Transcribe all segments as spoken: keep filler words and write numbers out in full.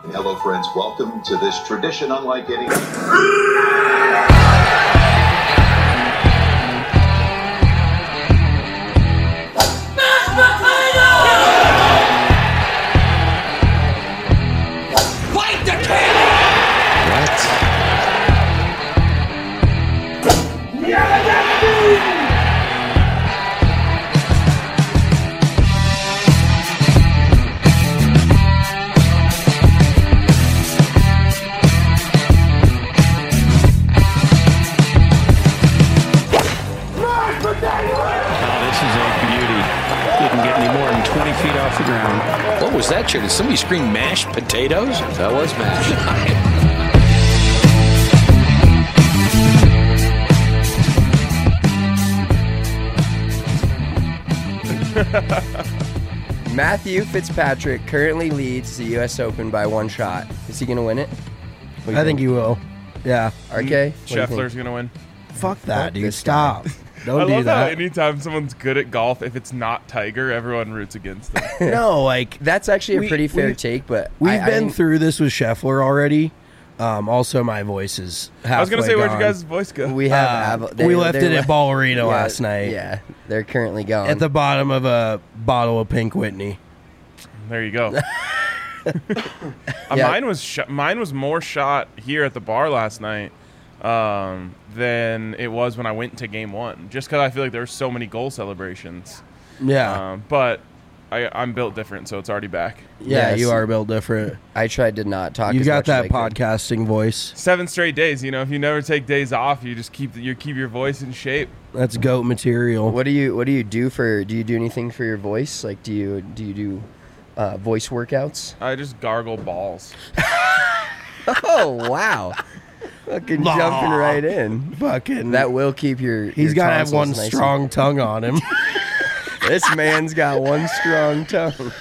Hello, friends. Welcome to this tradition unlike any. Fight the king! What? Feet off the ground. What was that, chair? Did somebody scream mashed potatoes? That was mashed. Matthew Fitzpatrick currently leads the U S Open by one shot. Is he going to win it? I think he will. Yeah. R K? Scheffler's going to win. Fuck that, Fuck dude. this Stop. Don't I do love how that. anytime someone's good at golf, if it's not Tiger, everyone roots against them. No, like That's actually a We- pretty fair we- take, but we've I, I been think- through this with Scheffler already. Um, also, my voice is halfway I was going to say, where'd you gone. guys' voice go? We have. Uh, Av- they- we left they're it le- at Ball Arena yeah, last night. Yeah, they're currently gone. At the bottom of a bottle of Pink Whitney. There you go. Uh, Yeah. Mine was sh- mine was more shot here at the bar last night um, than it was when I went to game one. Just because I feel like there were so many goal celebrations. Yeah. Um, but I, I'm built different, so it's already back. yeah, Yes. you are built different. I tried to not talk. You as got much that as I could. podcasting voice. Seven straight days. You know, if you never take days off, you just keep you keep your voice in shape. That's goat material. What do you What do you do for? Do you do anything for your voice? Like, do you do you do uh, voice workouts? I just gargle balls. Oh wow! Fucking Nah. jumping right in. Fucking. That will keep your. He's your got to have tonsils one nice and- strong tongue on him. This man's got one strong tongue.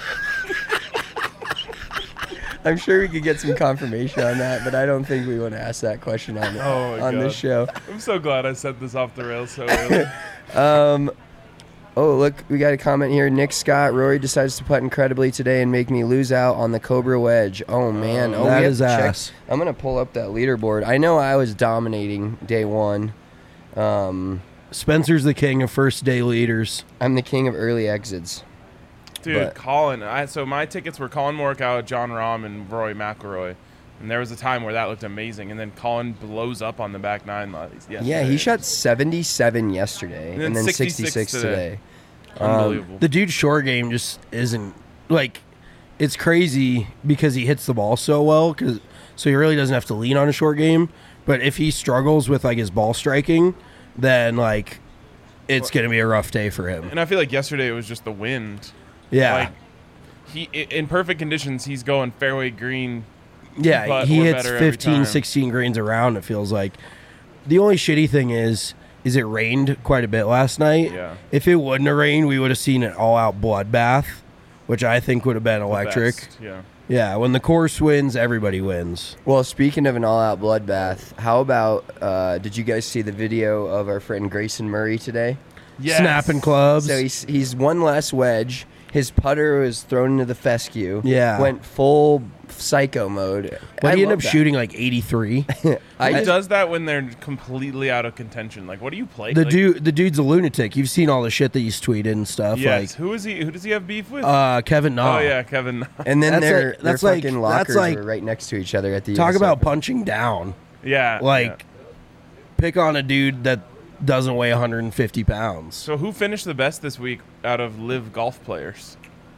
I'm sure we could get some confirmation on that, but I don't think we want to ask that question on Oh my on this show. I'm so glad I set this off the rails so early. Um, oh, look, we got a comment here. Nick Scott, Rory decides to putt incredibly today and make me lose out on the Cobra wedge. Oh, man. Oh, that we have is to check- ass. I'm going to pull up that leaderboard. I know I was dominating day one. Um, Spencer's the king of first day leaders. I'm the king of early exits. Dude, But- Colin. I, so my tickets were Colin Morikawa, John Rahm, and Rory McIlroy. And there was a time where that looked amazing. And then Colin blows up on the back nine. Yesterday. Yeah, he shot seventy-seven yesterday and And then, then sixty-six, sixty-six today. today. Unbelievable. The dude's short game just isn't like it's crazy because he hits the ball so well. Cause so he really doesn't have to lean on a short game. But if he struggles with like his ball striking, then like it's gonna be a rough day for him. and I feel like yesterday it was just the wind. Yeah, Like, he i- in perfect conditions, he's going fairway green. yeah. but He we're hits better every fifteen, time. sixteen greens around. It feels like the only shitty thing is. Is it rained quite a bit last night? Yeah. If it wouldn't have rained, we would have seen an all-out bloodbath, which I think would have been electric. Best, Yeah. Yeah, when the course wins, everybody wins. Well, speaking of an all-out bloodbath, how about, uh, did you guys see the video of our friend Grayson Murray today? Yes. Snapping clubs. So he's, he's one less wedge. His putter was thrown into the fescue. Yeah. Went full psycho mode. but I he ended love up that. shooting like eighty-three. I Who just, does that when they're completely out of contention? Like, what do you play? the like, dude, the dude's a lunatic. You've seen all the shit that he's tweeted and stuff. Yes. who is he? Who does he have beef with? Like, uh, Kevin Na. oh yeah, Kevin. and then That's their, like- their that's like- fucking that's lockers like- were right next to each other at the Talk U S about Open. punching down. yeah. Like, yeah. pick on a dude that doesn't weigh one hundred fifty pounds. So who finished the best this week out of live golf players?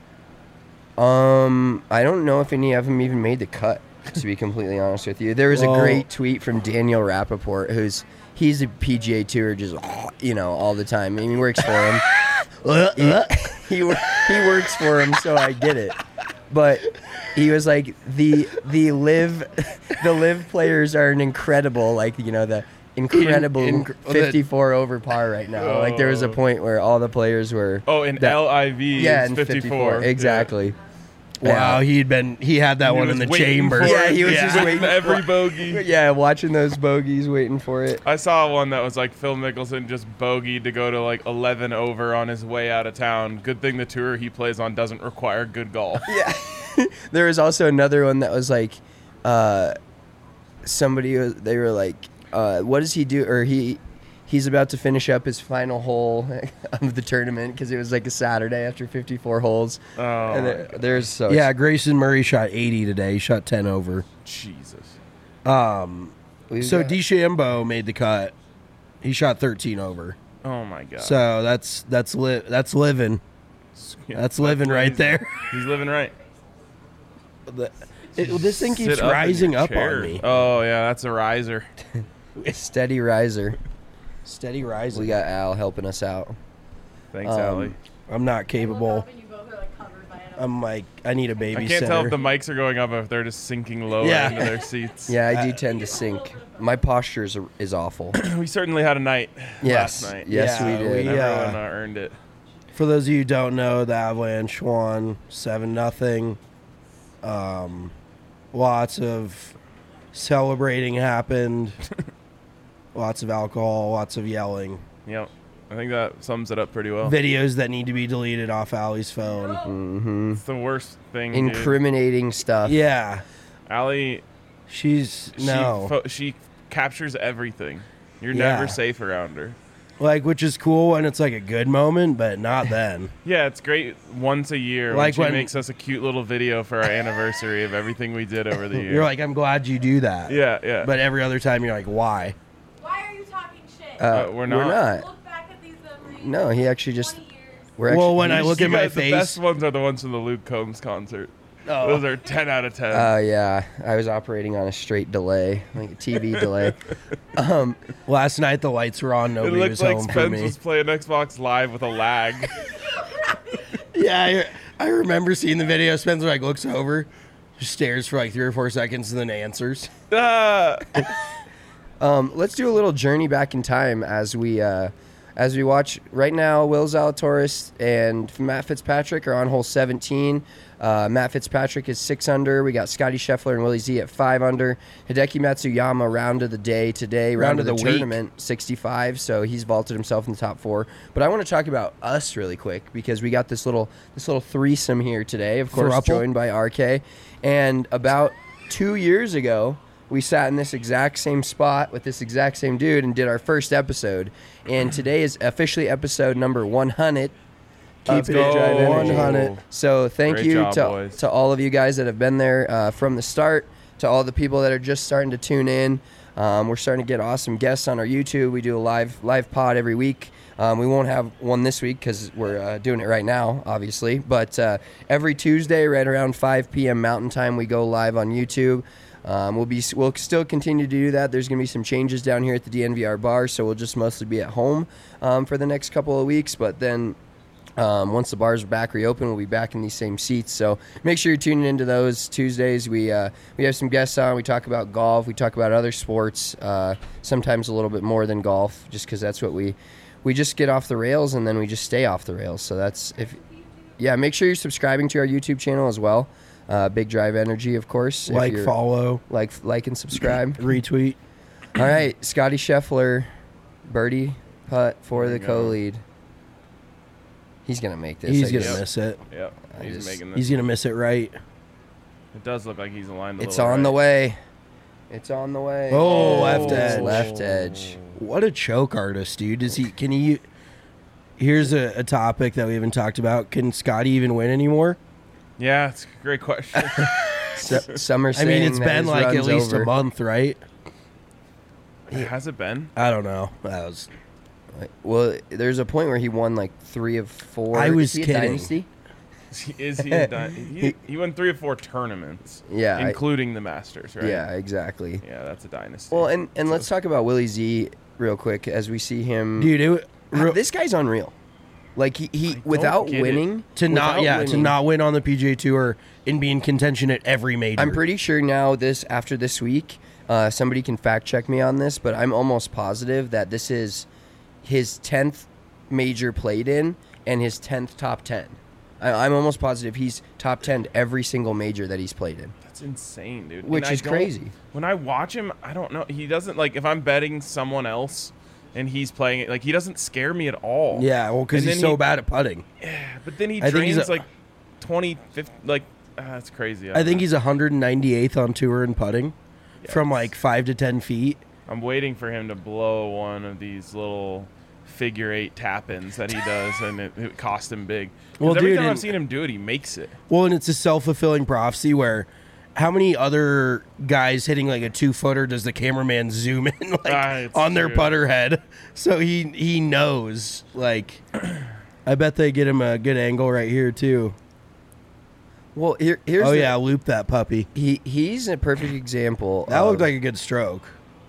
Um, I don't know if any of them even made the cut, to be completely honest with you. There was Well- a great tweet from Daniel Rappaport, who's he's a P G A Tour just, you know, all the time. I mean, he works for him. he, he, wor- he works for him, so I get it. But he was like, the the live the live players are an incredible, like, you know, the incredible In- in- fifty-four over par right now. Like, there was a point where all the players were Oh, in that- L I V, yeah, is in fifty-four. fifty-four, exactly. Wow, Yeah. he'd been he had that He one was in the waiting chamber. for Yeah, it. he was just With waiting every for- bogey. Yeah, watching those bogeys, waiting for it. I saw one that was like Phil Mickelson just bogeyed to go to like eleven over on his way out of town. Good thing the tour he plays on doesn't require good golf. Yeah. there was also another one that was like, uh, somebody was, they were like, uh, what does he do? Or he he's about to finish up his final hole of the tournament because it was like a Saturday after fifty-four holes. Oh, and there, there's so Yeah, Grayson Murray shot eighty today. He shot ten over. Jesus. Um, we've so got- DeChambeau made the cut. He shot thirteen over. Oh my god. So that's that's li- that's living. Yeah, That's living right he's- there. He's living right. The- it- this thing keeps Sit up in rising your up chair. on me. Oh yeah, that's a riser. steady riser. Steady rising. We got Al helping us out. Thanks, Um, Allie. I'm not Look capable. up and you both are, like, covered by it. I'm like, I need a babysitter. I can't tell if the mics are going up or if they're just sinking lower Yeah. into their seats. Yeah, I do tend to sink. My posture is, is awful. We certainly had a night Yes. last night. Yes, Yeah, we did. we, And uh, everyone uh, earned it. For those of you who don't know, the Avalanche won seven nothing. Um, lots of celebrating happened. Lots of alcohol, lots of yelling. Yep. I think that sums it up pretty well. Videos that need to be deleted off Allie's phone. hmm It's the worst thing. dude. Incriminating stuff. Yeah, Allie, she's she, no fo- she captures everything. You're Yeah. never safe around her. like, which is cool when it's like a good moment, but not then. Yeah, it's great once a year when Like she when- makes us a cute little video for our anniversary of everything we did over the year. You're like, I'm glad you do that. yeah, yeah. But every other time, you're like, why? Why are you talking shit? Uh, Uh, we're we're not. not. Look back at these memories. No, he actually just. twenty years. We're actually, Well, when I You look at my guys- the face, best ones are the ones from the Luke Combs concert. Oh. Those are ten out of ten. Uh, yeah, I was operating on a straight delay, like a T V delay. Um, last night the lights were on, it nobody looked was like home for Spence me. was playing Xbox Live with a lag. Yeah, I, I remember seeing the video. Spencer like looks over, just stares for like three or four seconds, and then answers. Ah! um, let's do a little journey back in time as we uh, as we watch right now. Will Zalatoris and Matt Fitzpatrick are on hole seventeen. Uh, Matt Fitzpatrick is six under. We got Scotty Scheffler and Willie Z at five under. Hideki Matsuyama round of the day today, round, Round of of the, the week. tournament, sixty-five. So he's vaulted himself in the top four. But I want to talk about us really quick because we got this little this little threesome here today. Of course, Thruple? joined by R K. And about two years ago, we sat in this exact same spot with this exact same dude and did our first episode. And today is officially episode number one hundred. Keep Let's it go. Drive Energy. one hundred. So thank Great you job, to, boys. to all of you guys that have been there uh, from the start, to all the people that are just starting to tune in. Um, we're starting to get awesome guests on our YouTube. We do a live live pod every week. Um, we won't have one this week because we're uh, doing it right now, obviously. But uh, every Tuesday, right around five p.m. Mountain Time, we go live on YouTube. Um, we'll be we'll still continue to do that. There's going to be some changes down here at the D N V R bar, so we'll just mostly be at home um, for the next couple of weeks. But then um, once the bars are back reopen, we'll be back in these same seats. So make sure you're tuning into those Tuesdays. We uh, we have some guests on. We talk about golf. We talk about other sports. Uh, sometimes a little bit more than golf, just because that's what we we just get off the rails and then we just stay off the rails. So that's if yeah. Make sure you're subscribing to our YouTube channel as well. Uh, Big Drive Energy, of course. if Like, you're- follow, like, like, and subscribe. retweet. All right, Scotty Scheffler, birdie putt for There the we go. co-lead. He's gonna make this. He's I gonna guess. miss it. Yep, I he's just- making this. He's gonna miss it right. It does look like he's aligned a It's little on the right. way. It's on the way. Oh, left It's edge. Left edge. What a choke artist, dude. Does he? Can he? Here's a, a topic that we haven't talked about. Can Scotty even win anymore? Yeah, it's a great question. Su- Summer I mean, saying it's that been his like at run's least over. a month, right? Has it been? I don't know. That was. Like, well, there's a point where he won like three of four. I was Is he a kidding. Dynasty? Is he? A di- he, he won three or four tournaments, Yeah, I- including the Masters, right? Yeah, exactly. Yeah, that's a dynasty. Well, and, and let's talk about Willie Z real quick as we see him. Dude, it, Ah, real, this guy's unreal. Like he, he don't without get it. winning to not without yeah to winning, not win on the P G A Tour and be in contention at every major. I'm pretty sure now this after this week, uh, somebody can fact check me on this, but I'm almost positive that this is his tenth major played in and his tenth top ten. I, I'm almost positive he's top ten every single major that he's played in. that's insane, dude. Which And I is don't- crazy. When I watch him, I don't know. He doesn't like if I'm betting someone else and he's playing it. Like he doesn't scare me at all. Yeah, well, because And he's then so he- bad at putting. But then he I think he's drains a- like twenty, fifty, like that's crazy. I think he's one hundred ninety-eighth on tour in putting from Yikes. like five to ten feet. I'm waiting for him to blow one of these little figure eight tap-ins that he does, and it, it cost him big. 'Cause Well, every dude, time I've and- seen him do it, he makes it. Well, and it's a self-fulfilling prophecy where how many other guys hitting like a two-footer does the cameraman zoom in like Ah, it's on their true. putter head? So he he knows. Like, I bet they get him a good angle right here too. Well, here, here's Oh the, yeah, loop that puppy. he he's a perfect example. That of, looked like a good stroke.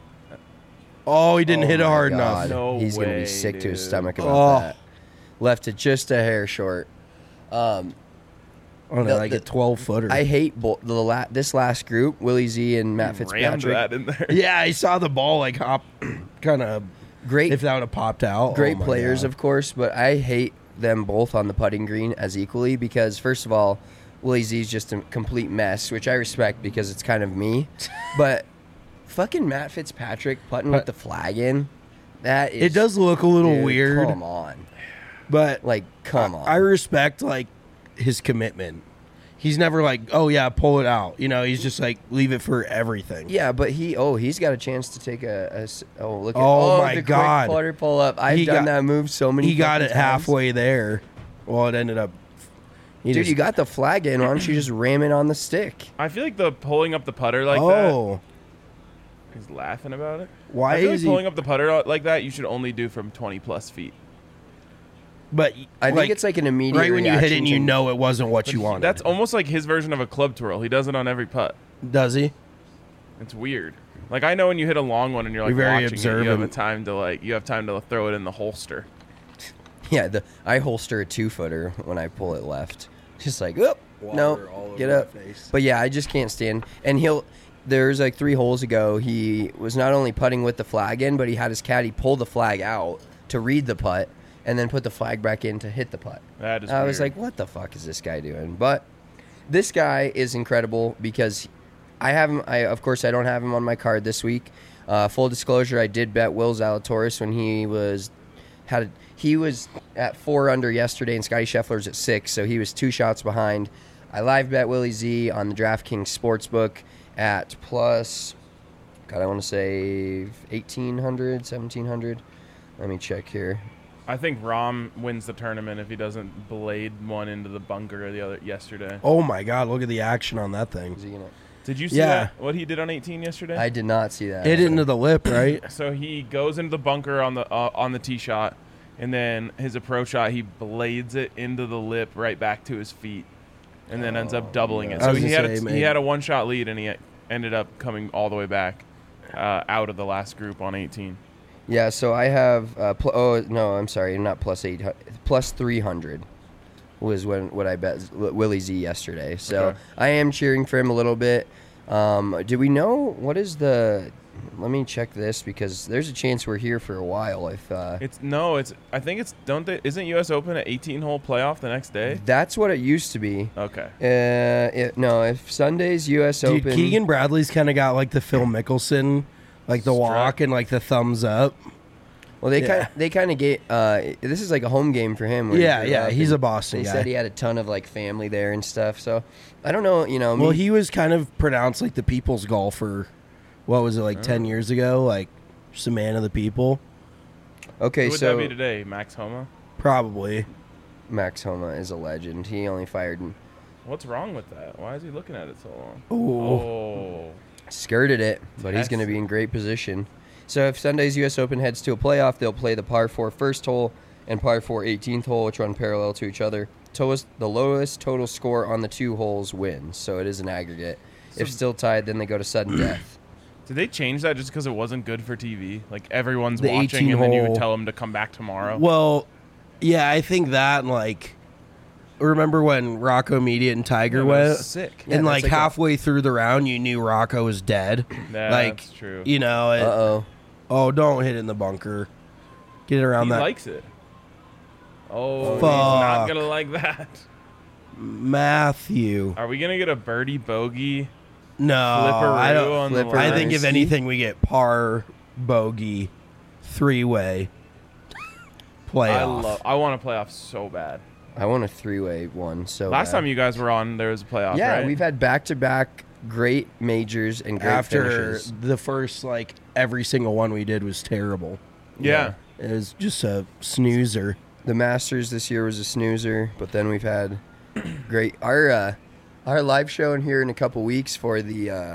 Oh, he didn't Oh hit it my hard God. enough. No He's gonna way, be sick to his dude. stomach about Oh. that. Left it just a hair short. Um, Oh no, The- like the- a twelve footer. I hate bo- the la- this last group, Willie Z and Matt Rammed Fitzpatrick. that in there. yeah, I saw the ball like hop, kind of. Great, If that would have popped out, great oh my players, God. of course, but I hate them both on the putting green as equally because, first of all, Willie Z's just a complete mess, which I respect because it's kind of me. But fucking Matt Fitzpatrick putting with the flag in, that is. It does look a little dude, weird, Come on. but Like, come on. I respect like his commitment. He's never like, oh yeah, pull it out. You know, he's just like leave it for everything. Yeah, but he oh he's got a chance to take a, a s- oh look at Oh, my the quick God. putter pull up. I've He done got- that move so many. He got fucking it times. halfway there. Well, it ended up. he Dude, just- you got the flag in. Why don't you just ram it on the stick? I feel like the pulling up the putter like that. oh, He's laughing about it. why I feel is like he? pulling up the putter like that, you should only do from twenty plus feet. but I like, think it's like an immediate. right when you hit it, reaction and you to- know it wasn't what you wanted. That's almost like his version of a club twirl. He does it on every putt. Does he? It's weird. Like I know when you hit a long one and you're like You're very watching it, you have a observant. time to like you have time to throw it in the holster. Yeah, the I holster a two footer when I pull it left. Just like, oh no, Water all over get my up. face. But yeah, I just can't stand. And he'll. There's like three holes ago, he was not only putting with the flag in, but he had his caddy pull the flag out to read the putt, and then put the flag back in to hit the putt. That is I was weird. like, what the fuck is this guy doing? But this guy is incredible because I have him. I of course I don't have him on my card this week. Uh, full disclosure, I did bet Will Zalatoris when he was had he was at four under yesterday, and Scotty Scheffler's at six, so he was two shots behind. I live bet Willie Z on the DraftKings Sportsbook at plus. God, I want to say eighteen hundred, seventeen hundred. Let me check here. I think Rom wins the tournament if he doesn't blade one into the bunker the other yesterday. Oh my God! Look at the action on that thing. Is he gonna- Did you see Yeah. that? What he did on eighteen yesterday? I did not see that. Hit it into the lip, right? So he goes into the bunker on the uh, on the tee shot, and then his approach shot, he blades it into the lip right back to his feet, and then ends up doubling it. I So was he gonna had say, a, man. he had a one shot lead, and he ended up coming all the way back uh, out of the last group on eighteen. Yeah, so I have. Uh, pl- oh no, I'm sorry, not plus eight, plus three hundred was when what I bet Willie Z yesterday. So Okay. I am cheering for him a little bit. Um, do we know what is the? Let me check this because there's a chance we're here for a while. If uh, It's no, it's I think it's don't they isn't U S Open an eighteen hole playoff the next day? that's what it used to be. Okay. Uh, it, no, if Sunday's U S Dude, Open. Keegan Bradley's kind of got like the Phil Mickelson, like the Strut. walk and like the thumbs up. Well, they Yeah. kind they kind of get. Uh, this is like a home game for him. where he Yeah, grew yeah, up, he's and a Boston They guy. said he had a ton of like family there and stuff. So I don't know. You know, Well, me- he was kind of pronounced like the people's golfer. What was it like ten years ago? Like just a man of the people, okay. Who would so that be today? Max Homa? probably. Max Homa is a legend. He only fired and What's wrong with that? Why is he looking at it so long? Oh, Oh. skirted it, but he's going to be in great position. So if Sunday's U S Open heads to a playoff, they'll play the par four first hole and par four eighteenth hole, which run parallel to each other. Totals- The lowest total score on the two holes wins, so it is an aggregate. if still tied, then they go to sudden death. Did they change that just because it wasn't good for T V? Like everyone's The watching, and then you would eighteen-hole. tell them to come back tomorrow. well, yeah, I think that and like, remember when Rocco Immediate and Tiger Yeah, that went? was sick. Yeah, and that's like, like a- halfway through the round, you knew Rocco was dead. Yeah, like, that's true. you know, Uh it, oh. oh, don't hit it in the bunker. Get it around He that. likes it. Oh, he's Fuck. not gonna like that. Matthew. Are we gonna get a birdie bogey No, flipperoo I don't. on the Flipperoo. I line? think if See? anything, we get par, bogey, three way playoff. I love. I want a playoff so bad. I won a three-way one. So Last bad. time you guys were on, there was a playoff. yeah, right? we've had back-to-back great majors and great After finishes. the first, like, every single one we did was terrible. Yeah. It was just a snoozer. The Masters this year was a snoozer, but then we've had great our uh, our live show in here in a couple weeks for the uh,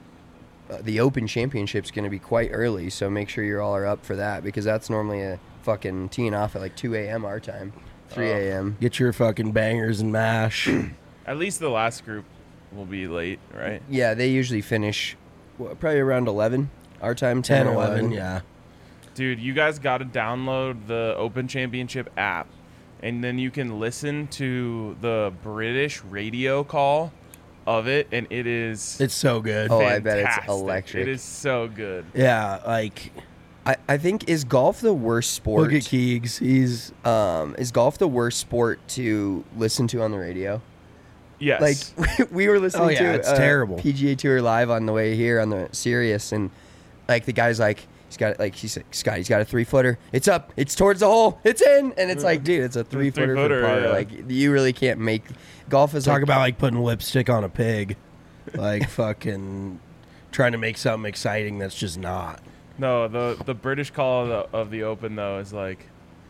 uh, the Open Championship's going to be quite early, so make sure you all are up for that because that's normally a fucking teeing off at like two a.m. our time, three a.m. Get your fucking bangers and mash. At least the last group will be late, right? Yeah, they usually finish what, probably around eleven our time, ten, ten, or eleven, eleven. yeah. Dude, you guys got to download the Open Championship app, and then you can listen to the British radio call of it, and it is It's so good. Oh, I bet it's fantastic. electric. It is so good. Yeah, like, I, I think is golf the worst sport? look at Keegs. He's Um, is golf the worst sport to listen to on the radio? Yes. Like we were listening Oh, yeah, to it's uh, terrible. P G A Tour live on the way here on the Sirius, and like the guy's like he's got like he's like, Scott, he's got a three footer. It's up. It's towards the hole. It's in. And it's like, dude, it's a three footer for three-footer, par. yeah. Like you really can't make golf is talk like, about like putting lipstick on a pig. Like fucking trying to make something exciting that's just not. No, the the British call of the, of the Open though is like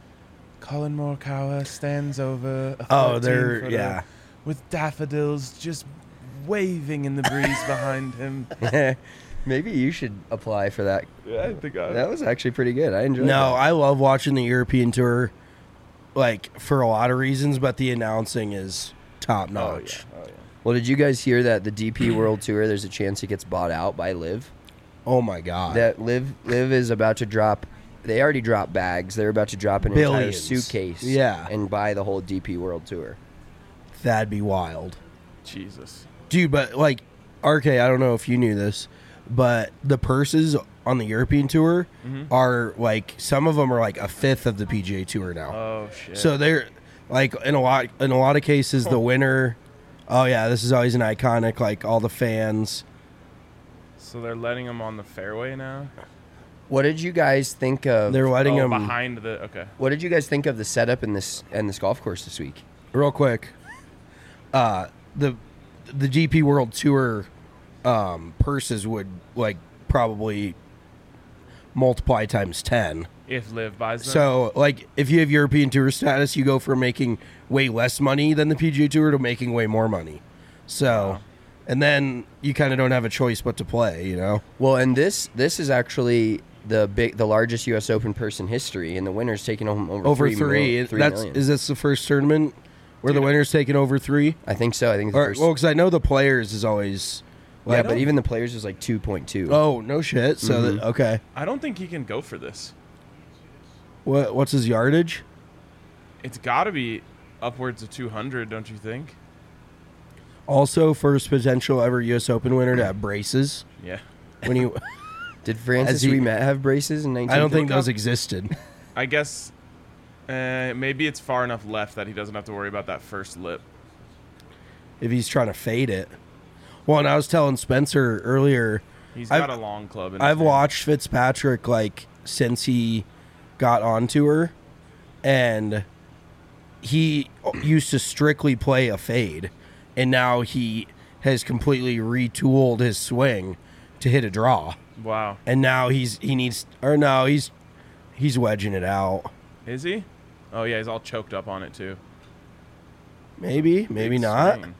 Colin Morikawa stands over a Oh, they're thirteen-footer yeah. with daffodils just waving in the breeze behind him. maybe you should apply for that. Yeah, I think I, That was actually pretty good. I enjoyed No, that. I love watching the European Tour, like for a lot of reasons, but the announcing is top oh, notch. yeah. Oh, yeah. Well, did you guys hear that the D P World Tour? There's a chance it gets bought out by Liv. Oh my god. That Liv Liv is about to drop. They already dropped bags. They're about to drop an Billions. entire suitcase. Yeah. and buy the whole D P World Tour. That'd be wild. Jesus. Dude, but like R K, I don't know if you knew this, but the purses on the European Tour Mm-hmm. are like some of them are like a fifth of the P G A Tour now. Oh shit. So they're like in a lot in a lot of cases the winner. Oh yeah, this is always an iconic. Like all the fans. So they're letting him on the fairway now. What did you guys think of? They're letting oh, them behind the okay. What did you guys think of the setup in this and this golf course this week? real quick. Uh, the the G P World Tour um, purses would like probably multiply times ten. If Liv buys them. So, like, if you have European Tour status, you go from making way less money than the P G A Tour to making way more money. So, Wow. and then you kind of don't have a choice but to play, you know? Well, and this this is actually the big the largest U S Open purse in history, and the winner's taking home over Over three. three. mil- three That's million. is this the first tournament where the winner's taking over three? I think so. I think it's the Or, first. well, because I know the players is always. yeah, like- but even the players is like two point two. Oh no shit! So Mhm. that, okay, I don't think he can go for this. what what's his yardage? It's got to be upwards of two hundred, don't you think? Also, first potential ever U S Open winner to have braces. Yeah. When you, Did Francis As he- Ouimet have braces in nineteen? I don't think those existed. I guess uh, maybe it's far enough left that he doesn't have to worry about that first lip. If he's trying to fade it. Well, and I was telling Spencer earlier, He's I've- got a long club. In his I've hand. watched Fitzpatrick like since he got on tour, and he used to strictly play a fade, and now he has completely retooled his swing to hit a draw, Wow. and now he's he needs or no he's he's wedging it out. Is he? Oh yeah, he's all choked up on it too. Maybe, maybe Big not. swing.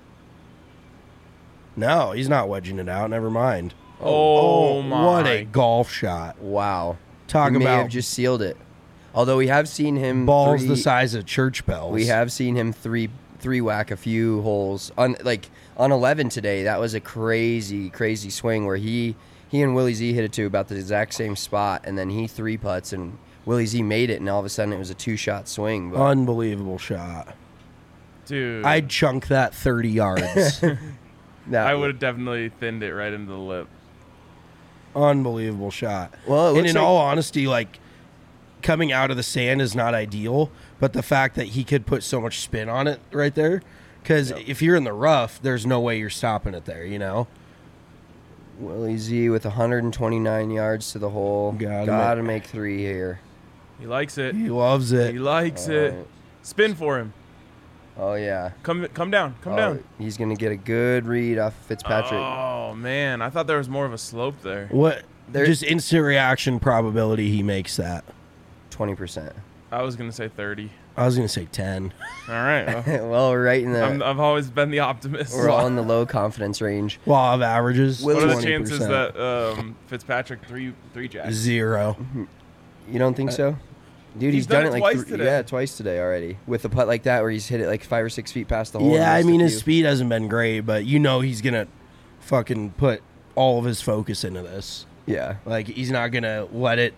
No, he's not wedging it out. Never mind. Oh, my! What a golf shot! Wow. Talk he may about have just sealed it. Although we have seen him balls three, the size of church bells. We have seen him three three whack a few holes on like on eleven today. That was a crazy crazy swing where he he and Willie Z hit it to about the exact same spot, and then he three putts and Willie Z made it, and all of a sudden it was a two shot swing. But Unbelievable shot. Dude, I'd chunk that thirty yards. that, I would have definitely thinned it right into the lip. Unbelievable shot. Well, it and looks in like- all honesty, like coming out of the sand is not ideal, but the fact that he could put so much spin on it right there, because if you're in the rough, there's no way you're stopping it there. You know. Willie Z with one hundred twenty-nine yards to the hole. Gotta Gotta, make- make three here. He likes it. He loves He it. likes All it. right. Spin for him. Oh yeah. Come come down. Come Oh, down. He's gonna get a good read off Fitzpatrick. Oh man, I thought there was more of a slope there. What? There- Just instant reaction probability he makes that. Twenty percent. I was gonna say thirty. I was gonna say ten. All right. Well, Well, we're right in the. I'm, I've always been the optimist. we're all in the low confidence range. Law of averages. Will- What are the twenty chances percent. that um, Fitzpatrick three three jacks? Zero. You don't think so? Dude, he's, He's done done, it it like twice three- today. yeah, twice today already with a putt like that where he's hit it like five or six feet past the hole. and Yeah, I missed a mean his few. speed hasn't been great, but you know he's gonna fucking put all of his focus into this. Yeah. Like he's not gonna let it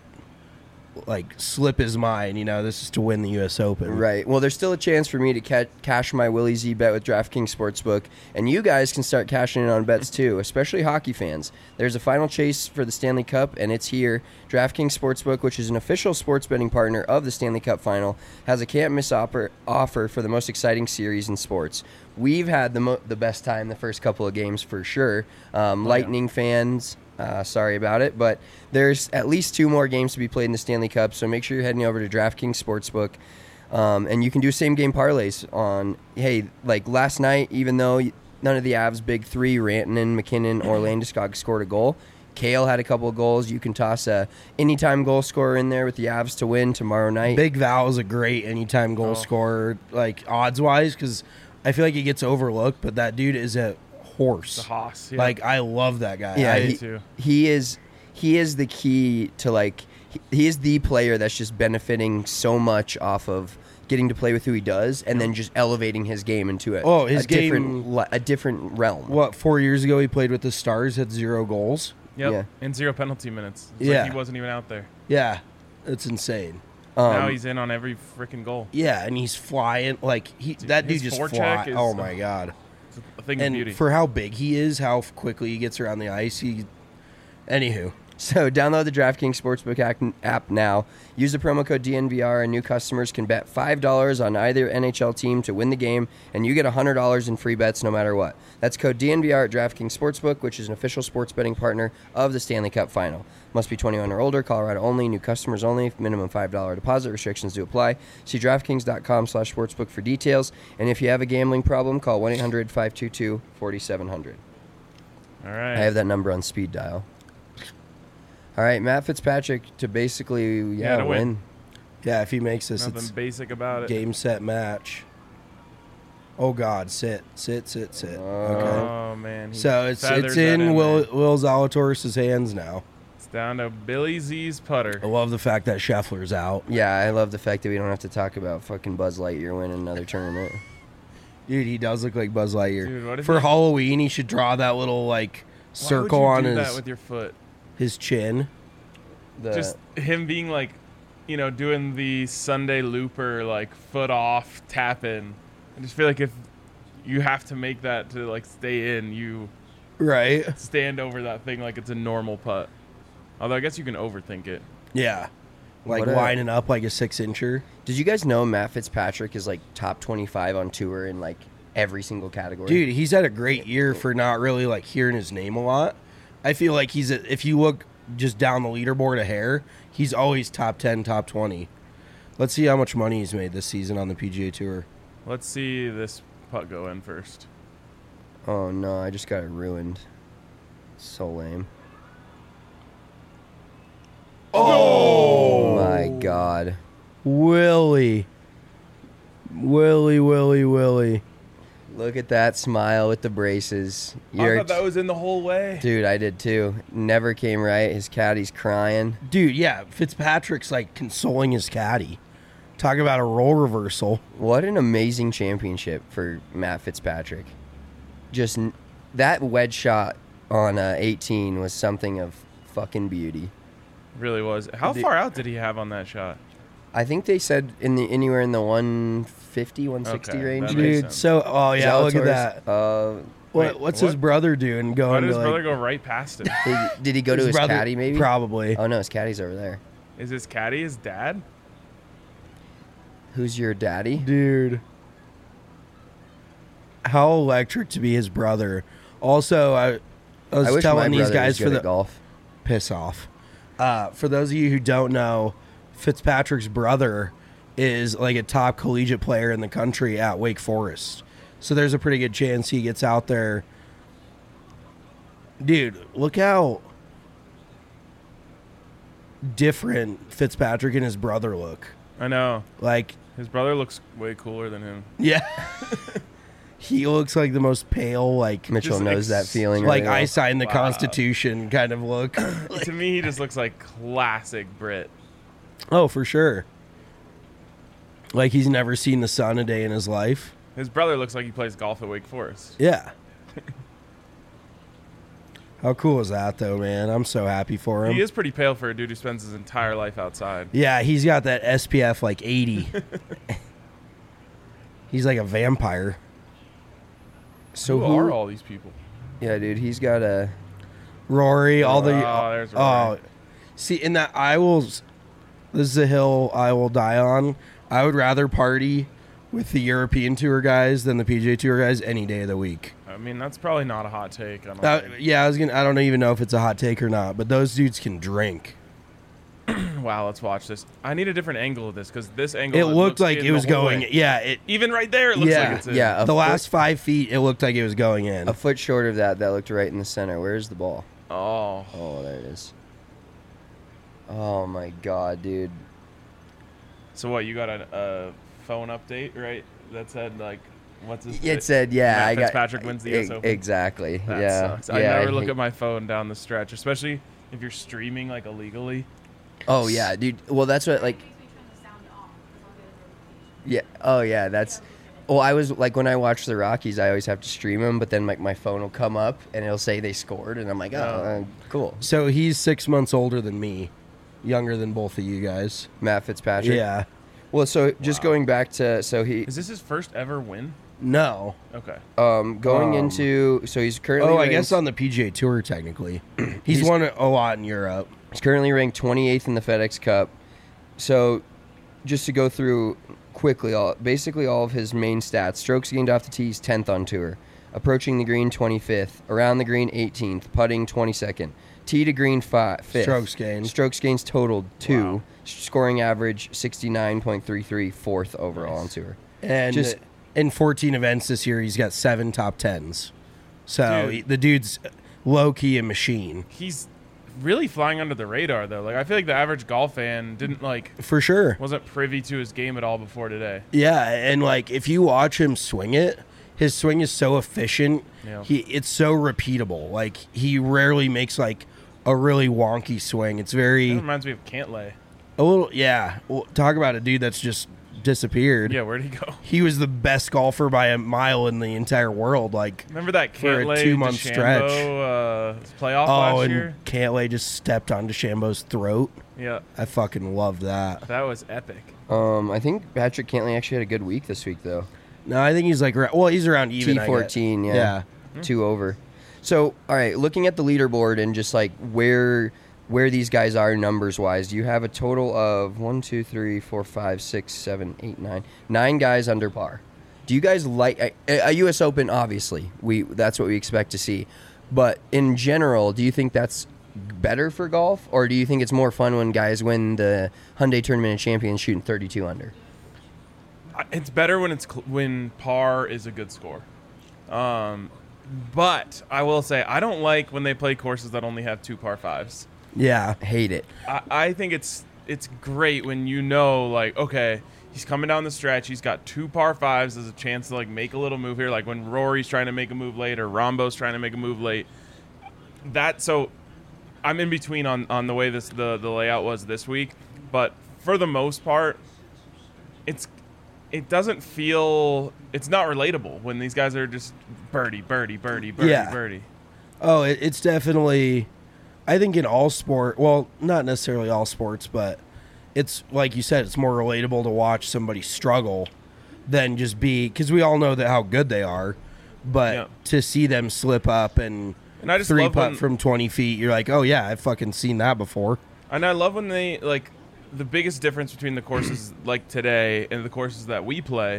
like slip his mind. You know, this is to win the U S Open. Right. Well, there's still a chance for me to ca- cash my Willie Z bet with DraftKings Sportsbook, and you guys can start cashing in on bets too, especially hockey fans. There's a final chase for the Stanley Cup, and it's here. DraftKings Sportsbook, which is an official sports betting partner of the Stanley Cup Final, has a can't-miss offer, offer for the most exciting series in sports. We've had the mo- the best time the first couple of games for sure. Um, Lightning fans. Uh, sorry about it, but there's at least two more games to be played in the Stanley Cup, so make sure you're heading over to DraftKings Sportsbook, um, and you can do same-game parlays on, hey, like last night, even though none of the Avs' big three, Rantanen, McKinnon, or Landeskog scored a goal, Kale had a couple of goals. You can toss a anytime goal scorer in there with the Avs to win tomorrow night. Big Val is a great anytime goal Oh. scorer, like odds wise, because I feel like he gets overlooked, but that dude is a horse. The Haas. Yeah. Like I love that guy. Yeah, I- he, too. he is he is the key to like he, he is the player that's just benefiting so much off of getting to play with who he does and then just elevating his game into a, Oh, his a different game- li- a different realm. what four years ago he played with the Stars, had zero goals. Yep. yeah. And zero penalty minutes. It's Yeah. Like he wasn't even out there. Yeah, it's insane. Um, now he's in on every freaking goal. Yeah, and he's flying like he that dude his just forecheck fly. is- Oh my god. It's a thing of And beauty. for how big he is, how quickly he gets around the ice, he. Anywho, So download the DraftKings Sportsbook ac- app now. Use the promo code D N V R, and new customers can bet five dollars on either N H L team to win the game, and you get one hundred dollars in free bets no matter what. That's code D N V R at DraftKings Sportsbook, which is an official sports betting partner of the Stanley Cup Final. Must be twenty-one or older, Colorado only, new customers only, minimum five dollars deposit, restrictions do apply. See DraftKings.com slash sportsbook for details, and if you have a gambling problem, call one eight hundred five two two four seven zero zero. All right. I have that number on speed dial. All right, Matt Fitzpatrick to basically yeah, Yeah, to win. win. yeah, if he makes this, Nothing it's basic about it. game set match. Oh God, sit, sit, sit, sit. Okay. Oh man. he So it's feathered it's that in Will there. Will Zalatoris' hands now. It's down to Billy Z's putter. I love the fact that Scheffler's out. Yeah, I love the fact that we don't have to talk about fucking Buzz Lightyear winning another tournament. Dude, he does look like Buzz Lightyear. Dude, what if For he- Halloween, he should draw that little like Why circle would you on do his that with your foot. his chin. The, Just him being like, you know, doing the Sunday looper like foot off tap in. I just feel like if you have to make that to like stay in, you Right. stand over that thing like it's a normal putt. Although I guess you can overthink it. Yeah. Like What a- lining up like a six incher. did you guys know Matt Fitzpatrick is like top twenty-five on tour in like every single category? Dude, he's had a great year for not really like hearing his name a lot. I feel like he's a, if you look just down the leaderboard a hair, he's always top ten, top twenty. Let's see how much money he's made this season on the P G A Tour. Let's see this putt go in first. Oh no, I just got it ruined. So lame. Oh my god. Willie. Willie, Willie, Willie. Look at that smile with the braces. I You're thought that was in the whole way. Dude, I did too. Never came right. His caddy's crying. Dude, yeah, Fitzpatrick's like consoling his caddy. Talk about a role reversal. What an amazing championship for Matt Fitzpatrick. Just n- that wedge shot on uh, eighteen was something of fucking beauty. Really was. How The- far out did he have on that shot? I think they said in the anywhere in the one fifty, one sixty Okay, range. that makes Dude, sense. so oh yeah, look at Zalatoris, that. Uh, What, Wait, what's his what? brother doing? Why Going did to his like, brother go right past him? did, did he go to his brother- caddy maybe? Probably. Oh no, his caddy's over there. Is his caddy his dad? Who's your daddy? Dude. How electric to be his brother. Also, I, I was I wish telling my these brother guys was for good the at golf. piss off. Uh, for those of you who don't know, Fitzpatrick's brother is like a top collegiate player in the country at Wake Forest. So there's a pretty good chance he gets out there. Dude, look how different Fitzpatrick and his brother look. I know. Like, his brother looks way cooler than him. yeah. He looks like the most pale, like Mitchell Just knows ex- that feeling. like really well. I signed the Wow. Constitution kind of look. To me, he just looks like classic Brit. Oh, for sure. Like he's never seen the sun a day in his life. His brother looks like he plays golf at Wake Forest. Yeah. How cool is that, though, man? I'm so happy for him. He is pretty pale for a dude who spends his entire life outside. Yeah, he's got that S P F like eighty. He's like a vampire. So who, who are all these people? Yeah, dude, he's got a. Rory, all the Oh, there's Rory. oh, see, in that I will. This is a hill I will die on. I would rather party with the European Tour guys than the P G A Tour guys any day of the week. I mean, that's probably not a hot take. I don't Uh, think. yeah, I was gonna. I don't even know if it's a hot take or not, but those dudes can drink. Wow, let's watch this. I need a different angle of this because this angle. It looked looks like in it was the whole going. way. Yeah, it. Even right there, it looks Yeah, like it's in. yeah, a the foot- last five feet, it looked like it was going in. A foot short of that, that looked right in the center. Where's the ball? Oh, Oh, there it is. Oh my god, dude. so what? You got a, a phone update, right? That said, like, what's his? It said, yeah, Matt I got. Fitzpatrick wins the U S e- Open. Exactly. That yeah. sucks. I yeah, never look hate- at my phone down the stretch, especially if you're streaming like illegally. Oh yeah, dude. Well, that's what like. Makes me turn the sound off because I'll get a notification. Yeah. Oh yeah, that's. Well, I was like when I watch the Rockies, I always have to stream them, but then like my phone will come up and it'll say they scored, and I'm like, oh, Oh. uh, cool. So he's six months older than me, younger than both of you guys. Matt Fitzpatrick. Yeah. Well, so just Wow. going back to so he Is this his first ever win? No. Okay. um going Um, into so he's currently Oh, I ranked, guess on the P G A Tour technically. He's, He's- won a a lot in Europe. he's currently ranked twenty-eighth in the FedEx Cup. So just to go through quickly, all basically all of his main stats: strokes gained off the tee, he's tenth on tour. Approaching the green, twenty-fifth. Around the green, eighteenth. Putting, twenty-second. Tee to green, fi- fifth. Strokes gained. Strokes gains totaled, two. Wow. Scoring average, sixty-nine point three three, fourth overall on tour. And Just- in fourteen events this year, he's got seven top tens. So Dude. he- the dude's low key a machine He's really flying under the radar though. Like I feel like the average golf fan didn't like for sure. wasn't privy to his game at all before today. Yeah, and like if you watch him swing it, his swing is so efficient. Yeah. He it's so repeatable. Like he rarely makes like a really wonky swing. It's That very reminds me of Cantlay. a little yeah. Well, talk about a dude that's just disappeared. Yeah, where'd he go? He was the best golfer by a mile in the entire world. Like Remember that For a Cantlay two-month DeChambeau, stretch. uh, playoff oh, last and year? Cantlay just stepped on DeChambeau's throat. Yeah, I fucking love that. that was epic. Um, I think Patrick Cantlay actually had a good week this week, though. No, I think he's like ra- well, he's around even. T I get. fourteen, yeah. Yeah. Two over. So, all right, looking at the leaderboard and just like where where these guys are numbers wise, you have a total of one, two, three, four, five, six, seven, eight, nine, nine guys under par. Do you guys like a, a U S Open? Obviously, we that's what we expect to see. But in general, do you think that's better for golf, or do you think it's more fun when guys win the Hyundai Tournament of Champions shooting thirty-two under? I- It's better when it's cl- when par is a good score. Um, but I will say I don't like when they play courses that only have two par fives. Yeah. Hate it. I, I think it's it's great when you know, like, okay, he's coming down the stretch. He's got two par fives. There's a chance to like make a little move here, like when Rory's trying to make a move late or Rombo's trying to make a move late. That so, I'm in between on, on the way this the, the layout was this week, but for the most part, it's it doesn't feel it's not relatable when these guys are just birdie, birdie, birdie, birdie, Yeah. birdie. Oh, it, it's definitely. I think in all sport, well, not necessarily all sports, but it's like you said, it's more relatable to watch somebody struggle than just be because we all know that how good they are, but Yeah. to see them slip up and, And I just three love putt when- from twenty feet, you're like, oh yeah, I've fucking seen that before. And I love when they like the biggest difference between the courses like today and the courses that we play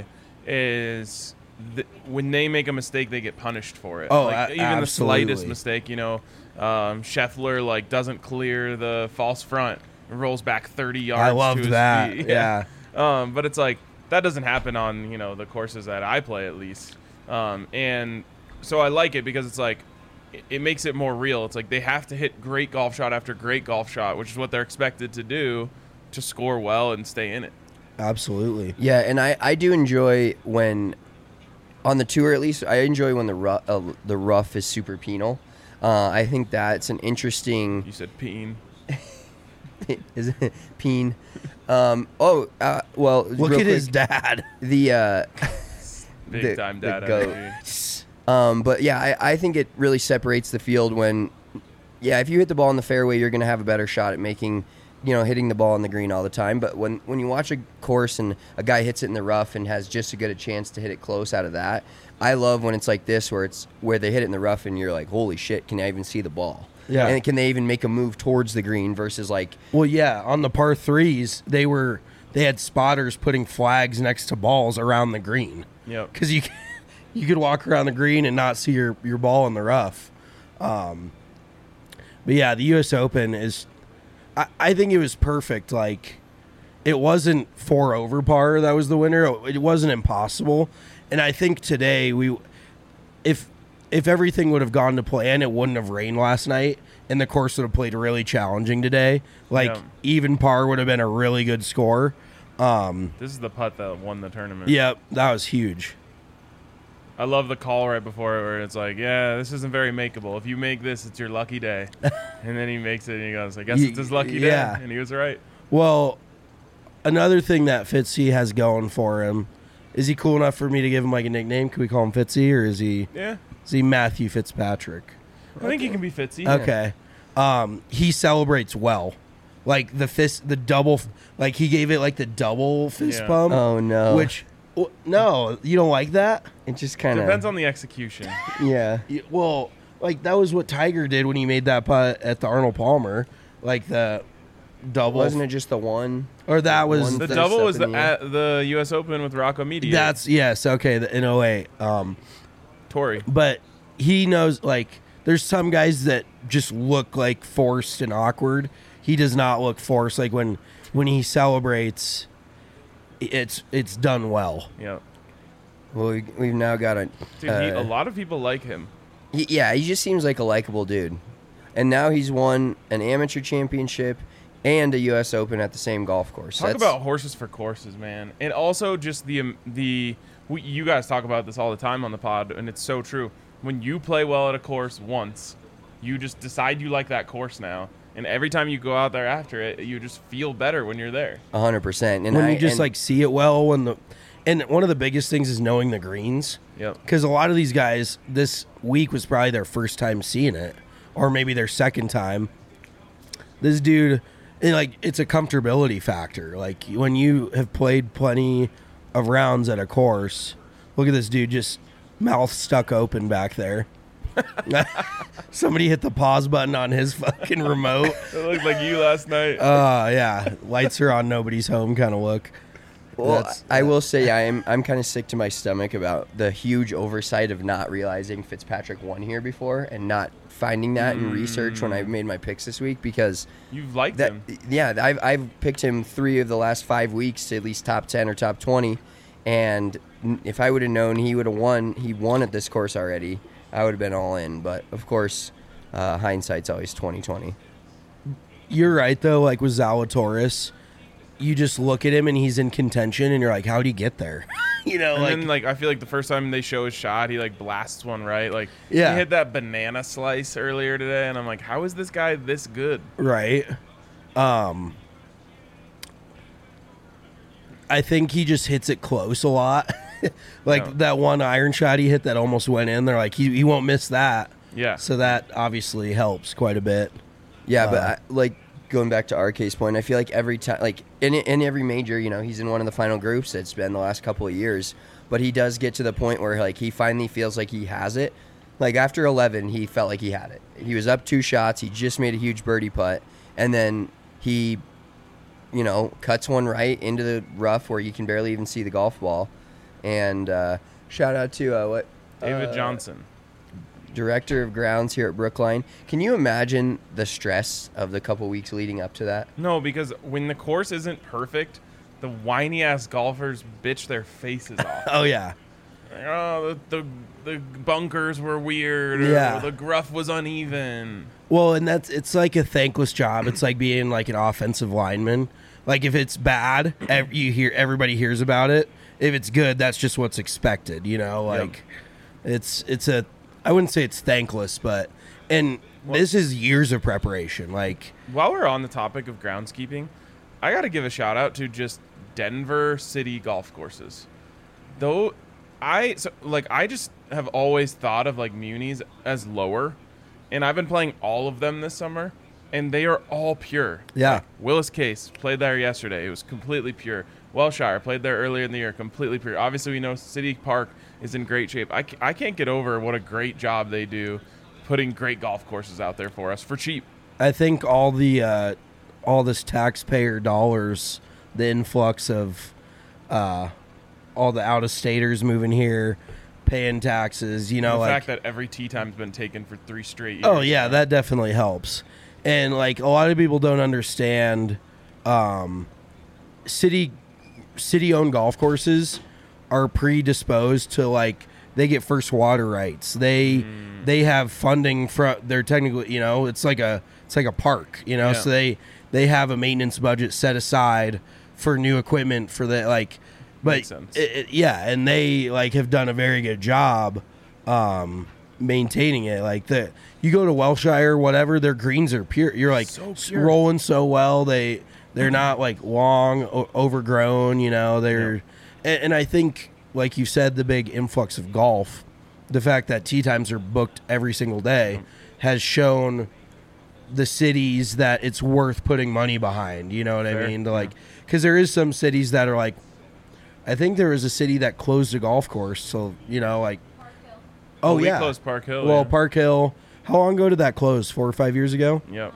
is th- when they make a mistake, they get punished for it. Oh, like, a- even the slightest absolutely. mistake, you know, um, Scheffler like doesn't clear the false front, and rolls back thirty yards. I to loved his that. feet. Yeah. Um, but it's like that doesn't happen on, you know, the courses that I play at least. Um, and so I like it because it's like it, it makes it more real. It's like they have to hit great golf shot after great golf shot, which is what they're expected to do to score well and stay in it. Absolutely. Yeah, and I, I do enjoy when, on the tour at least, I enjoy when the rough, uh, the rough is super penal. Uh, I think that's an interesting... You said peen. Is it peen? Um, oh, uh, well, Look real at quick, his dad. The, uh, Big the- time the dad goat. energy. Um, but yeah, I, I think it really separates the field when, yeah, if you hit the ball in the fairway, you're going to have a better shot at making, you know, hitting the ball on the green all the time. But when, when you watch a course and a guy hits it in the rough and has just as good a chance to hit it close out of that, I love when it's like this, where it's where they hit it in the rough and you're like, holy shit, can I even see the ball? Yeah. And can they even make a move towards the green versus like, Well, yeah, on the par threes, they were they had spotters putting flags next to balls around the green. Yep. Because you you could walk around the green and not see your, your ball in the rough. Um, but yeah, the U S Open is, I, I think it was perfect. Like, it wasn't four over par that was the winner. It wasn't impossible. And I think today we, if if everything would have gone to plan, it wouldn't have rained last night, and the course would have played really challenging today. Like, Yeah. even par would have been a really good score. Um, This is the putt that won the tournament. yeah, that was huge. I love the call right before it where it's like, yeah, this isn't very makeable. If you make this, it's your lucky day. And then he makes it and he goes, I guess Y- it's his lucky yeah. day. And he was right. Well, another thing that Fitzy has going for him, is he cool enough for me to give him like a nickname? Can we call him Fitzy, or is he Yeah. is he Matthew Fitzpatrick? I think he can be Fitzy. Okay. Um, he celebrates well. Like the fist, the double, like he gave it like the double fist Yeah. pump. oh no, Which, w- no, you don't like that? it just kind Depends of, on the execution. yeah. Y- Well, like that was what Tiger did when he made that putt at the Arnold Palmer. Like the double. Wasn't it just the one? Or that was. One The fist double up was in the the air? at the U S Open with Rocco Mediate. That's, yes, okay, the, in oh eight. Um, Torrey. but he knows, like, there's some guys that just look like forced and awkward. He does not look forced. Like when when he celebrates, it's it's done well. Yeah. Well, we, we've now got a. Dude, he, uh, a lot of people like him. he- yeah, he just seems like a likable dude, and now he's won an amateur championship and a U S Open at the same golf course. Talk That's- about horses for courses, man. And also just the um, the we, you guys talk about this all the time on the pod, and it's so true. When you play well at a course once, you just decide you like that course now, and every time you go out there after it, you just feel better when you're there. a hundred percent. And when I, you just and- like see it well. When the and one of the biggest things is knowing the greens. Yep. Because a lot of these guys this week was probably their first time seeing it, or maybe their second time. This dude, and like it's a comfortability factor. Like when you have played plenty of rounds at a course, look at this dude just mouth stuck open back there. Somebody hit the pause button on his fucking remote. It looked like you last night. Uh yeah, lights are on, nobody's home kind of look. Well, That's- I will say I'm I'm kind of sick to my stomach about the huge oversight of not realizing Fitzpatrick won here before and not finding that in research when I made my picks this week, because You've liked that him. yeah I've I've picked him three of the last five weeks to at least top ten or top twenty, and n- if I would have known he would have won he won at this course already, I would have been all in. But of course, uh, hindsight's always twenty twenty. You're right though, like with Zalatoris, you just look at him and he's in contention and you're like, how'd he get there? you know, And like, then, like, I feel like the first time they show his shot, he, like, blasts one right. Like, Yeah. he hit that banana slice earlier today, and I'm like, how is this guy this good? right. Um I think he just hits it close a lot. like Yeah. that one iron shot he hit that almost went in. They're like, he, he won't miss that. Yeah. So that obviously helps quite a bit. Yeah, but Uh, I, like going back to our case point, I feel like every time, like in in every major, you know, he's in one of the final groups. It's been the last couple of years, but he does get to the point where like he finally feels like he has it. Like after eleven, he felt like he had it. He was up two shots. He just made a huge birdie putt, and then he, you know, cuts one right into the rough where you can barely even see the golf ball. And uh, shout out to uh, what David uh, Johnson. director of grounds here at Brookline. Can you imagine the stress of the couple weeks leading up to that? No, because when the course isn't perfect, the whiny ass golfers bitch their faces off. Oh yeah. Like, oh, the, the the bunkers were weird. Or Yeah. the gruff was uneven. Well, and that's it's like a thankless job. It's like being like an offensive lineman. Like if it's bad, ev- you hear everybody hears about it. If it's good, that's just what's expected. You know, like Yep. it's it's a I wouldn't say it's thankless, but and this is years of preparation. Like While we're on the topic of groundskeeping, I got to give a shout out to just Denver city golf courses. Though I so, like I just have always thought of like munis as lower, and I've been playing all of them this summer, and they are all pure. Yeah. Like, Willis Case played there yesterday. It was completely pure. Wellshire played there earlier in the year, completely pure. Obviously, we know City Park is in great shape. I, ca- I can't get over what a great job they do putting great golf courses out there for us for cheap. I think all the uh, all this taxpayer dollars, the influx of uh, all the out of staters moving here, paying taxes, you know, the like fact that every tee time's been taken for three straight years. oh yeah, that definitely helps. And like a lot of people don't understand, um, city city owned golf courses are predisposed to like they get first water rights. They Mm. they have funding from they're technically you know it's like a it's like a park you know Yeah. so they they have a maintenance budget set aside for new equipment for the like but Makes sense. it- it- yeah and they like have done a very good job um maintaining it. Like the you go to Wellshire whatever, their greens are pure. You're like So s- pure. rolling so well. They they're not like long o- overgrown, you know. They're and, and I think like you said, the big influx of golf, the fact that tee times are booked every single day has shown the cities that it's worth putting money behind. You know what Fair. I mean? To like, because there is some cities that are like, I think there was a city that closed a golf course. So you know, like, oh Well, we yeah, closed Park Hill, Well, yeah. Park Hill. How long ago did that close? Four or five years ago? Yep.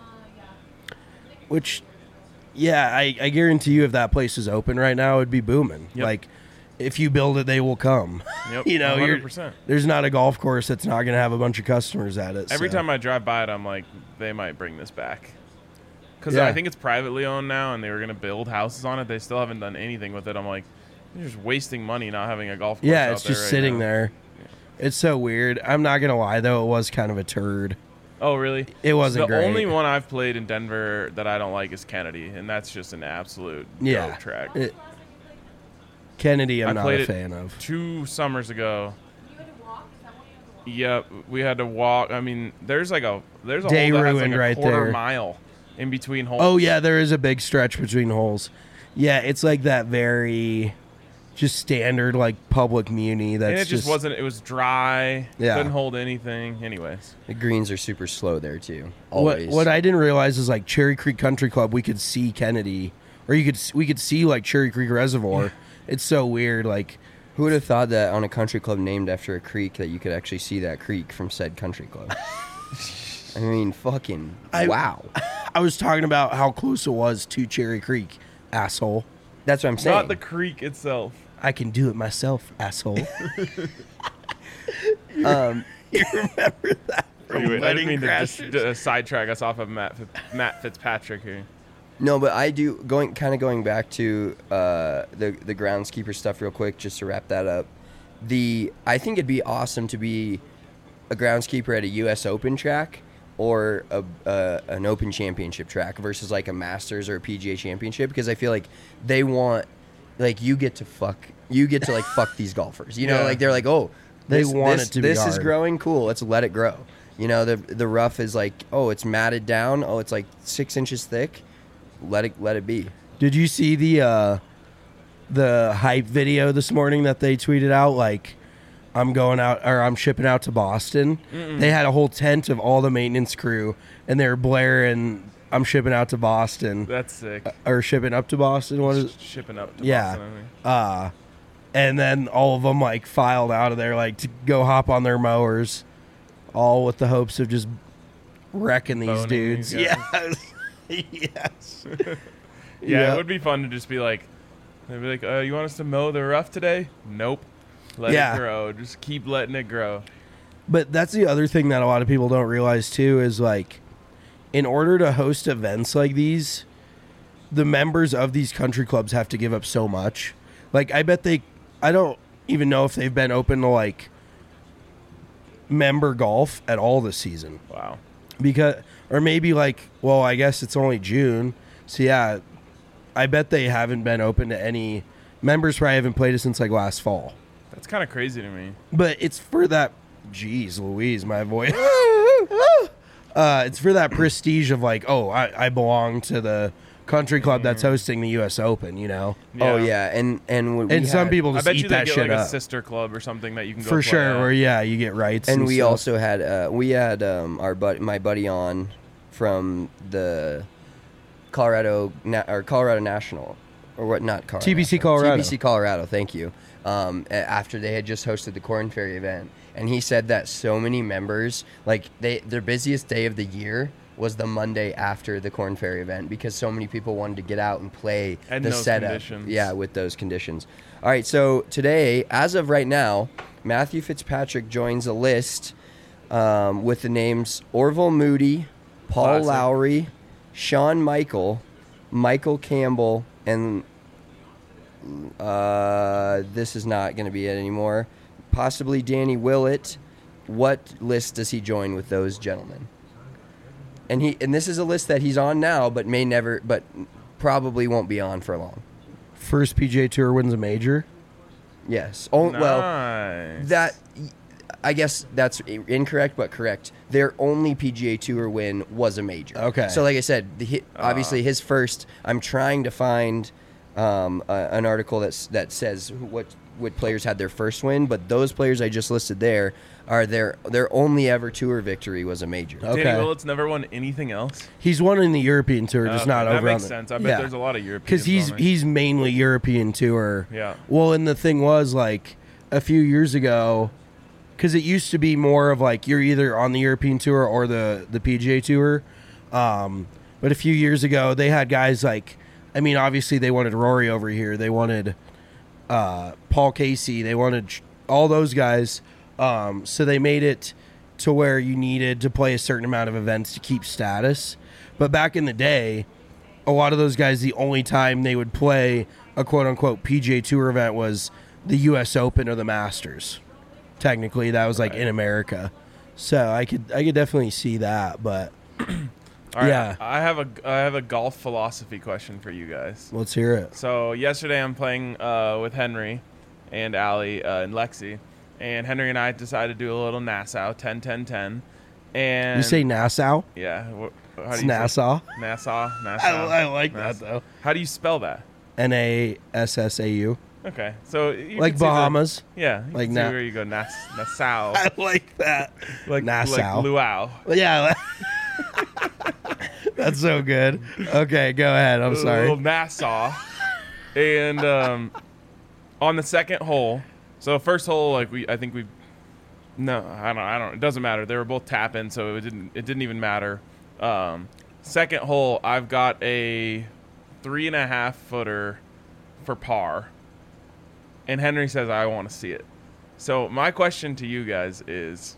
Which, yeah, I, I guarantee you, if that place is open right now, it'd be booming. Yep. Like, if you build it, they will come. Yep. you know, one you're, hundred percent. there's not a golf course that's not going to have a bunch of customers at it. Every so. time I drive by it, I'm like, they might bring this back. Because Yeah. I think it's privately owned now, and they were going to build houses on it. They still haven't done anything with it. I'm like, you're just wasting money not having a golf course yeah, out it's there just right sitting now. there. It's so weird. I'm not gonna lie though, it was kind of a turd. Oh, really? It wasn't The great. only one I've played in Denver that I don't like is Kennedy, and that's just an absolute Yeah. dope track. It- Kennedy, I'm I not played a it fan of. Two summers ago. You had to walk? Is that one you had to walk? Yep, we had to walk. I mean, there's like a there's a Day hole that has like ruined a right quarter there. mile in between holes. Oh yeah, there is a big stretch between holes. Yeah, it's like that very just standard like public muni. That's and it just, wasn't. It was dry. Yeah. Couldn't hold anything. Anyways, The greens are super slow there too. What, Always. what I didn't realize is like Cherry Creek Country Club, we could see Kennedy, or you could s- we could see like Cherry Creek Reservoir. It's so weird. Like Who would have thought that on a country club named after a creek that you could actually see that creek from said country club? I mean, fucking I- wow. I was talking about how close it was to Cherry Creek, asshole. That's what I'm saying. not the creek itself. I can do it myself, asshole. um, You remember that from Anyway, I Wedding didn't mean to just Crashers? uh, sidetrack us off of Matt Fi- Matt Fitzpatrick here. no, but I do going kind of going back to uh, the the groundskeeper stuff real quick, just to wrap that up. The I think it'd be awesome to be a groundskeeper at a U S Open track or a, uh, an Open Championship track versus like a Masters or a P G A Championship, because I feel like they want like you get to fuck you get to like fuck these golfers. You know, Yeah. like they're like, oh, They this, want this, it to be this is hard. growing, cool. Let's let it grow. You know, the the rough is like, oh, it's matted down. Oh, it's like six inches thick. Let it let it be. Did you see the uh, the hype video this morning that they tweeted out? Like, I'm going out or I'm shipping out to Boston. They had a whole tent of all the maintenance crew, and they were blaring, "I'm shipping out to Boston," That's sick. or shipping up to Boston. What is? Shipping up to Yeah. Boston, I think. Uh, and then all of them like filed out of there, like to go hop on their mowers, all with the hopes of just wrecking these Boning dudes. these guys. Yes, yes. Yeah, Yeah. it would be fun to just be like, they'd be like, uh, you want us to mow the rough today? Nope. Let Yeah. it grow. Just keep letting it grow. But that's the other thing that a lot of people don't realize too is like, in order to host events like these, the members of these country clubs have to give up so much. Like, I bet they, I don't even know if they've been open to like member golf at all this season. Wow. Because, or maybe like, well, I guess it's only June. So yeah, I bet they haven't been open to any members. Probably haven't played it since like last fall. That's kind of crazy to me. But it's for that, geez Louise, my voice. uh, it's for that prestige of like, oh, I, I belong to the country club that's hosting the U S Open, you know? Oh yeah, and and we And some had- people I just bet eat you they that get shit like a up. sister club or something that you can go For play sure, at. where yeah, you get rights. and And, we stuff. also had uh, we had um, our bud my buddy on from the Colorado Na- or Colorado National or what not Colorado T B C National. Colorado. T B C Colorado, thank you. Um, a- after they had just hosted the Corn Ferry event, and he said that so many members, like they their busiest day of the year was the Monday after the Corn Ferry event because so many people wanted to get out and play And the those setup. conditions. Yeah, with those conditions. All right, so today, as of right now, Matthew Fitzpatrick joins a list um, with the names Orville Moody, Paul Classic. Lowry, Shawn Michael, Michael Campbell, and uh, this is not going to be it anymore. Possibly Danny Willett. What list does he join with those gentlemen? And he and this is a list that he's on now, but may never, but probably won't be on for long. First P G A Tour wins a major. Yes. Oh well, Nice. that I guess that's incorrect, but correct. Their only P G A Tour win was a major. Okay. So, like I said, the, hi- obviously his first. I'm trying to find um, a, an article that's that says who, what what players had their first win, but those players I just listed there are their their only ever tour victory was a major. Okay. Danny Willett's never won anything else. He's won in the European Tour, just Okay, not that over makes on the, sense. I bet there's a lot of Europeans because he's on there. he's mainly European Tour. Yeah. Well, and the thing was like a few years ago, because it used to be more of like you're either on the European Tour or the the P G A Tour. Um, but a few years ago, they had guys like, I mean, obviously they wanted Rory over here. They wanted uh, Paul Casey. They wanted sh- all those guys. Um, so they made it to where you needed to play a certain amount of events to keep status. But back in the day, a lot of those guys, the only time they would play a quote unquote P G A Tour event was the U S Open or the Masters. Technically, that was like in America. So I could I could definitely see that. But All right, yeah. I have a I have a golf philosophy question for you guys. let's hear it. So yesterday I'm playing uh, with Henry and Allie uh, and Lexi, and Henry and I decided to do a little Nassau ten ten ten. And You say Nassau? yeah, wh- how It's do you say- Nassau. Nassau, Nassau. I, I like that Nassau. though. How do you spell that? N A S S A U. Okay, so you Like can see the- Bahamas. yeah, you Like can see Na- where you go, Nass, Nassau, I like that. like Nassau. like luau. Yeah. That's so good. Okay, go ahead. I'm A sorry. little Nassau. And um, on the second hole, so first hole, like we, I think we, no, I don't, I don't. It doesn't matter. They were both tapping, so it didn't, it didn't even matter. Um, second hole, I've got a three and a half footer for par, and Henry says I want to see it. So my question to you guys is,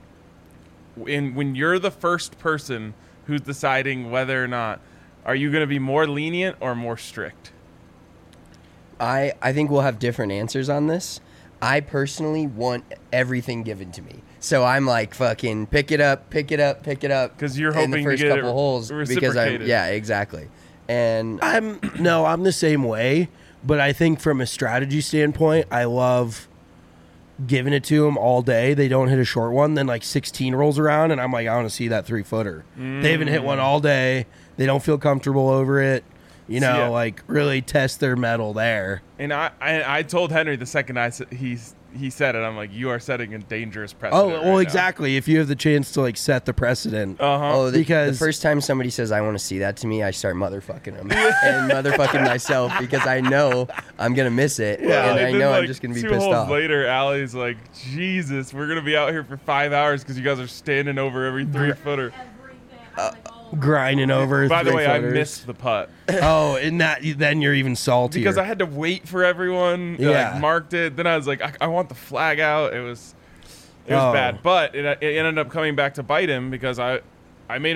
in when you're the first person who's deciding whether or not, are you going to be more lenient or more strict? I, I think we'll have different answers on this. I personally want everything given to me. So I'm like, fucking pick it up, pick it up, pick it up. 'Cause you're in the hoping to first get it couple holes because I'm reciprocated. yeah, exactly. And I'm no, I'm the same way, but I think from a strategy standpoint, I love giving it to them all day. They don't hit a short one, then like sixteen rolls around, and I'm like, I want to see that three footer. They haven't hit one all day. They don't feel comfortable over it. You know, yeah. like really test their mettle there. And I, I, I told Henry the second I s- he's he said it, I'm like, you are setting a dangerous precedent. Oh, well, exactly. If you have the chance to like set the precedent. Uh huh. oh, the, because- the first time somebody says I want to see that to me, I start motherfucking them and motherfucking myself because I know I'm gonna miss it, and I know I'm just gonna be two pissed holes off. later, Allie's like, Jesus, we're gonna be out here for five hours because you guys are standing over every three footer. Everything. I'm like, oh, Grinding over. By the three way, I footers. missed the putt Oh, and that then you're even saltier. because I had to wait for everyone. that, Yeah. like, marked it. Then I was like, I, I want the flag out. It was, it was Oh. bad. But it, it ended up coming back to bite him because I, I made him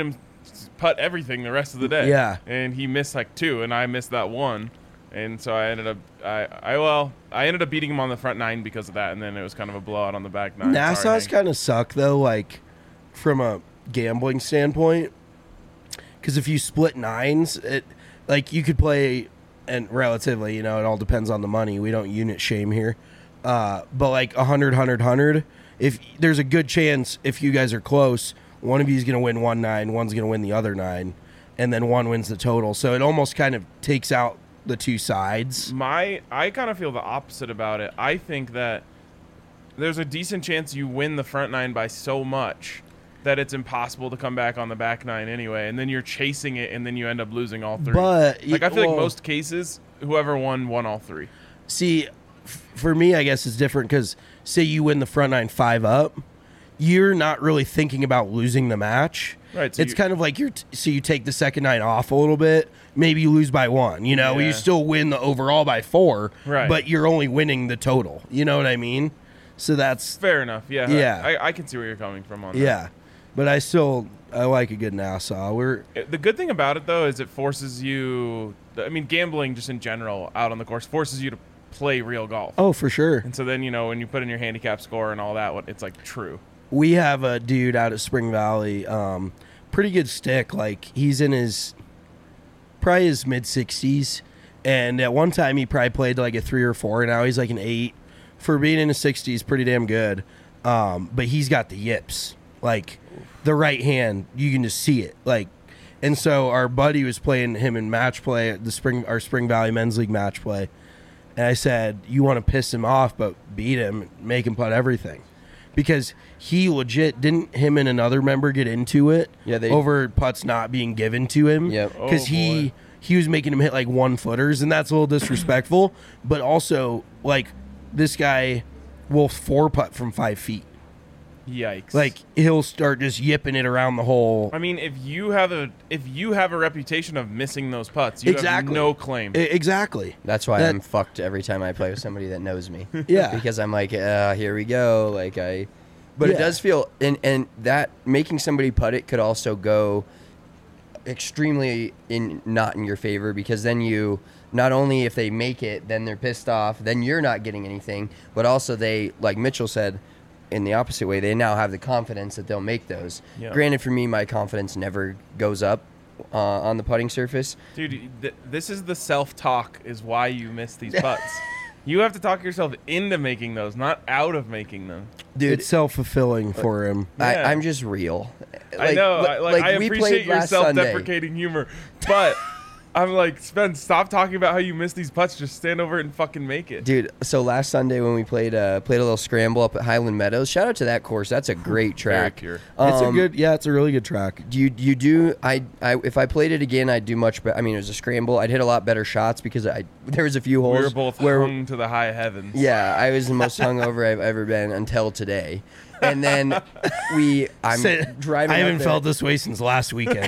putt everything the rest of the day. Yeah. And he missed like two, and I missed that one. And so I ended up, I, I well, I ended up beating him on the front nine because of that, and then it was kind of a blowout on the back nine. Sorry, Nassau's Hank. kind of suck though, like from a gambling standpoint, because if you split nines, it like you could play, and relatively, you know, it all depends on the money. We don't unit shame here, uh, but like a hundred, hundred, hundred. If there's a good chance, if you guys are close, one of you is going to win one nine, one's going to win the other nine, and then one wins the total. So it almost kind of takes out the two sides. My, I kind of feel the opposite about it. I think that there's a decent chance you win the front nine by so much that it's impossible to come back on the back nine anyway, and then you're chasing it, and then you end up losing all three. But like I feel well, like most cases, whoever won won all three. See, f- for me, I guess it's different because say you win the front nine five up, you're not really thinking about losing the match. Right. So it's you, kind of like you're t- so you take the second nine off a little bit. Maybe you lose by one. You know, Yeah. you still win the overall by four, Right. but you're only winning the total. You know what I mean? So that's fair enough. Yeah. Yeah. I, I can see where you're coming from on that. yeah. But I still I like a good Nassau. We're It- The good thing about it, though, is it forces you. I mean, gambling just in general out on the course forces you to play real golf. oh for sure. And so then, you know, when you put in your handicap score and all that, what it's like true. We have a dude out at Spring Valley, um, pretty good stick. Like he's in his probably his mid sixties, and at one time he probably played like a three or four. And now he's like an eight. For being in his sixties, pretty damn good. Um, but he's got the yips, like the right hand. You can just see it, like. And so our buddy was playing him in match play at the spring our Spring Valley Men's League match play, and I said, "You want to piss him off, but beat him, make him putt everything." Because he legit didn't him and another member get into it Yeah, they- over putts not being given to him. Yep. Because Oh, he boy. he was making him hit like one footers, and that's a little disrespectful. But also, like this guy will four putt from five feet. Yikes! Like he'll start just yipping it around the hole. I mean, if you have a if you have a reputation of missing those putts, you Exactly. have no claim. I- exactly. That's why That- I'm fucked every time I play with somebody that knows me. Yeah. Because I'm like, uh, here we go. Like I, but it Yeah. does feel, and and that making somebody putt it could also go extremely in not in your favor, because then you not only if they make it, then they're pissed off, then you're not getting anything, but also they, like Mitchell said, in the opposite way, they now have the confidence that they'll make those. Yeah. Granted, for me, my confidence never goes up uh, on the putting surface. Dude, th- this is the self-talk is why you miss these putts. You have to talk yourself into making those, not out of making them. Dude, It's self fulfilling for him. I, Yeah. I'm just real. I know. li- I, like, I we appreciate played your last Sunday. self-deprecating humor, but I'm like, Spen, stop talking about how you miss these putts. Just stand over it and fucking make it. Dude, so last Sunday when we played uh, played a little scramble up at Highland Meadows, shout out to that course. That's a great track. pure. It's a Um, good, yeah, it's a really good track. Do you you do I, I if I played it again, I'd do much better. I mean, it was a scramble. I'd hit a lot better shots because I there was a few holes We were both where hung to the high heavens. yeah, I was the most hungover I've ever been until today. And then we I'm Said- driving I up haven't there felt this way since last weekend.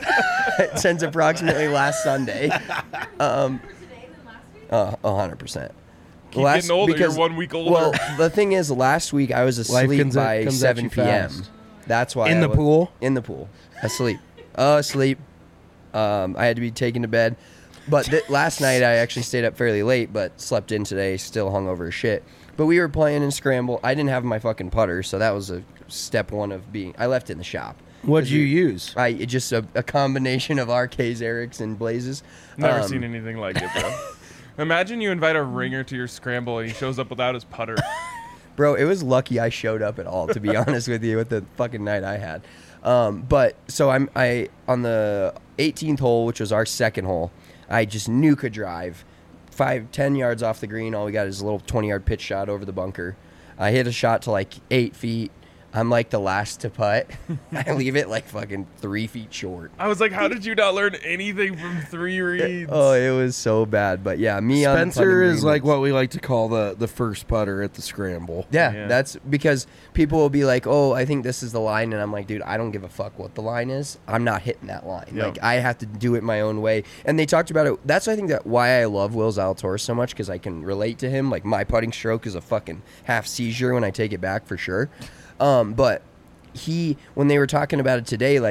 since approximately last Sunday. Um Today than last week? uh, one hundred percent. Keep getting older. You're one week older. Well, the thing is, last week I was Life asleep comes at- by comes at seven you p.m. fast. That's why In I the was- pool? In the pool, asleep, uh, asleep. Um, I had to be taken to bed, but th- last night I actually stayed up fairly late, but slept in today, still hungover as shit. But we were playing in scramble. I didn't have my fucking putter, so that was a step one of being. I left it in the shop. What'd you use? I it just a, a combination of R Ks, Erics, and Blazes. Never Um, seen anything like it, bro. Imagine you invite a ringer to your scramble and he shows up without his putter. Bro, it was lucky I showed up at all, to be honest with you, with the fucking night I had. Um, but so I'm I on the eighteenth hole, which was our second hole. I just knew could drive five, ten yards off the green. All we got is a little twenty yard pitch shot over the bunker. I hit a shot to like eight feet. I'm like the last to putt. I leave it like fucking three feet short. I was like, how did you not learn anything from three reads? Oh, it was so bad. But yeah, me on the Spencer putting is green like was- what we like to call the, the first putter at the scramble. Yeah, Yeah. that's because people will be like, "Oh, I think this is the line," and I'm like, "Dude, I don't give a fuck what the line is. I'm not hitting that line. Yeah. Like, I have to do it my own way." And they talked about it. That's I think that why I love Will Zalatoris so much, because I can relate to him. Like, my putting stroke is a fucking half seizure when I take it back for sure. Um, but he, when they were talking about it today, like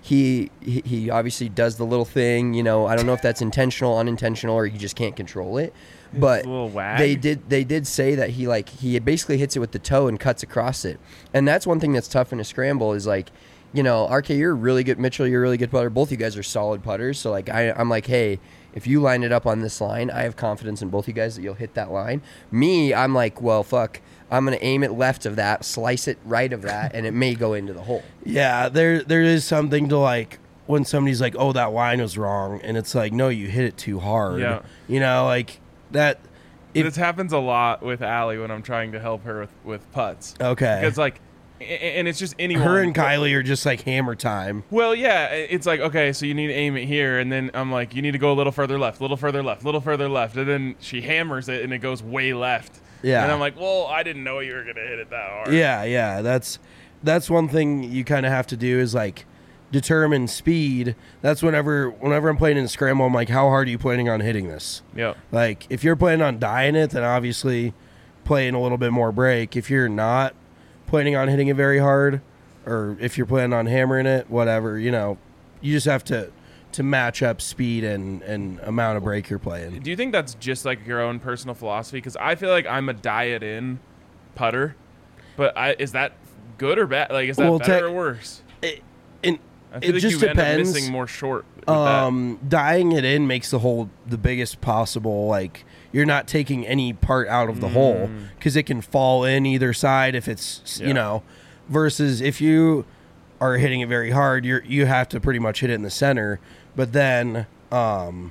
he, he he obviously does the little thing. You know, I don't know if that's intentional, unintentional, or he just can't control it. But a little wag. they did they did say that he like he basically hits it with the toe and cuts across it, and that's one thing that's tough in a scramble is like, you know, R K, you're really good. Mitchell, you're a really good putter. Both you guys are solid putters. So like I I'm like, hey, if you line it up on this line, I have confidence in both you guys that you'll hit that line. Me, I'm like, well, fuck. I'm gonna aim it left of that, slice it right of that, and it may go into the hole. Yeah, there there is something to like when somebody's like, oh, that line was wrong, and it's like, no, you hit it too hard. Yeah. You know, like that. If, this happens a lot with Allie when I'm trying to help her with, with putts. Okay. Because, like, a- and it's just anyone. her and Kylie are just like hammer time. Well, yeah, it's like, okay, so you need to aim it here, and then I'm like, you need to go a little further left, little further left, little further left, and then she hammers it, and it goes way left. Yeah. And I'm like, well, I didn't know you were going to hit it that hard. Yeah, yeah. That's that's one thing you kind of have to do is like determine speed. That's whenever whenever I'm playing in a scramble, I'm like, how hard are you planning on hitting this? Yep. Like, if you're planning on dying it, then obviously playing a little bit more break. If you're not planning on hitting it very hard, or if you're planning on hammering it, whatever, you know, you just have to to match up speed and, and amount of break you're playing. Do you think that's just like your own personal philosophy? Because I feel like I'm a diet-in putter, but I is that good or bad? Like, is that Well, better te- or worse? It, and I feel it like just you end up depends. missing more short. With Um, dying it in makes the hole the biggest possible. Like, you're not taking any part out of the hole because it can fall in either side if it's Yeah. you know. Versus if you are hitting it very hard, you're you have to pretty much hit it in the center. But then, um,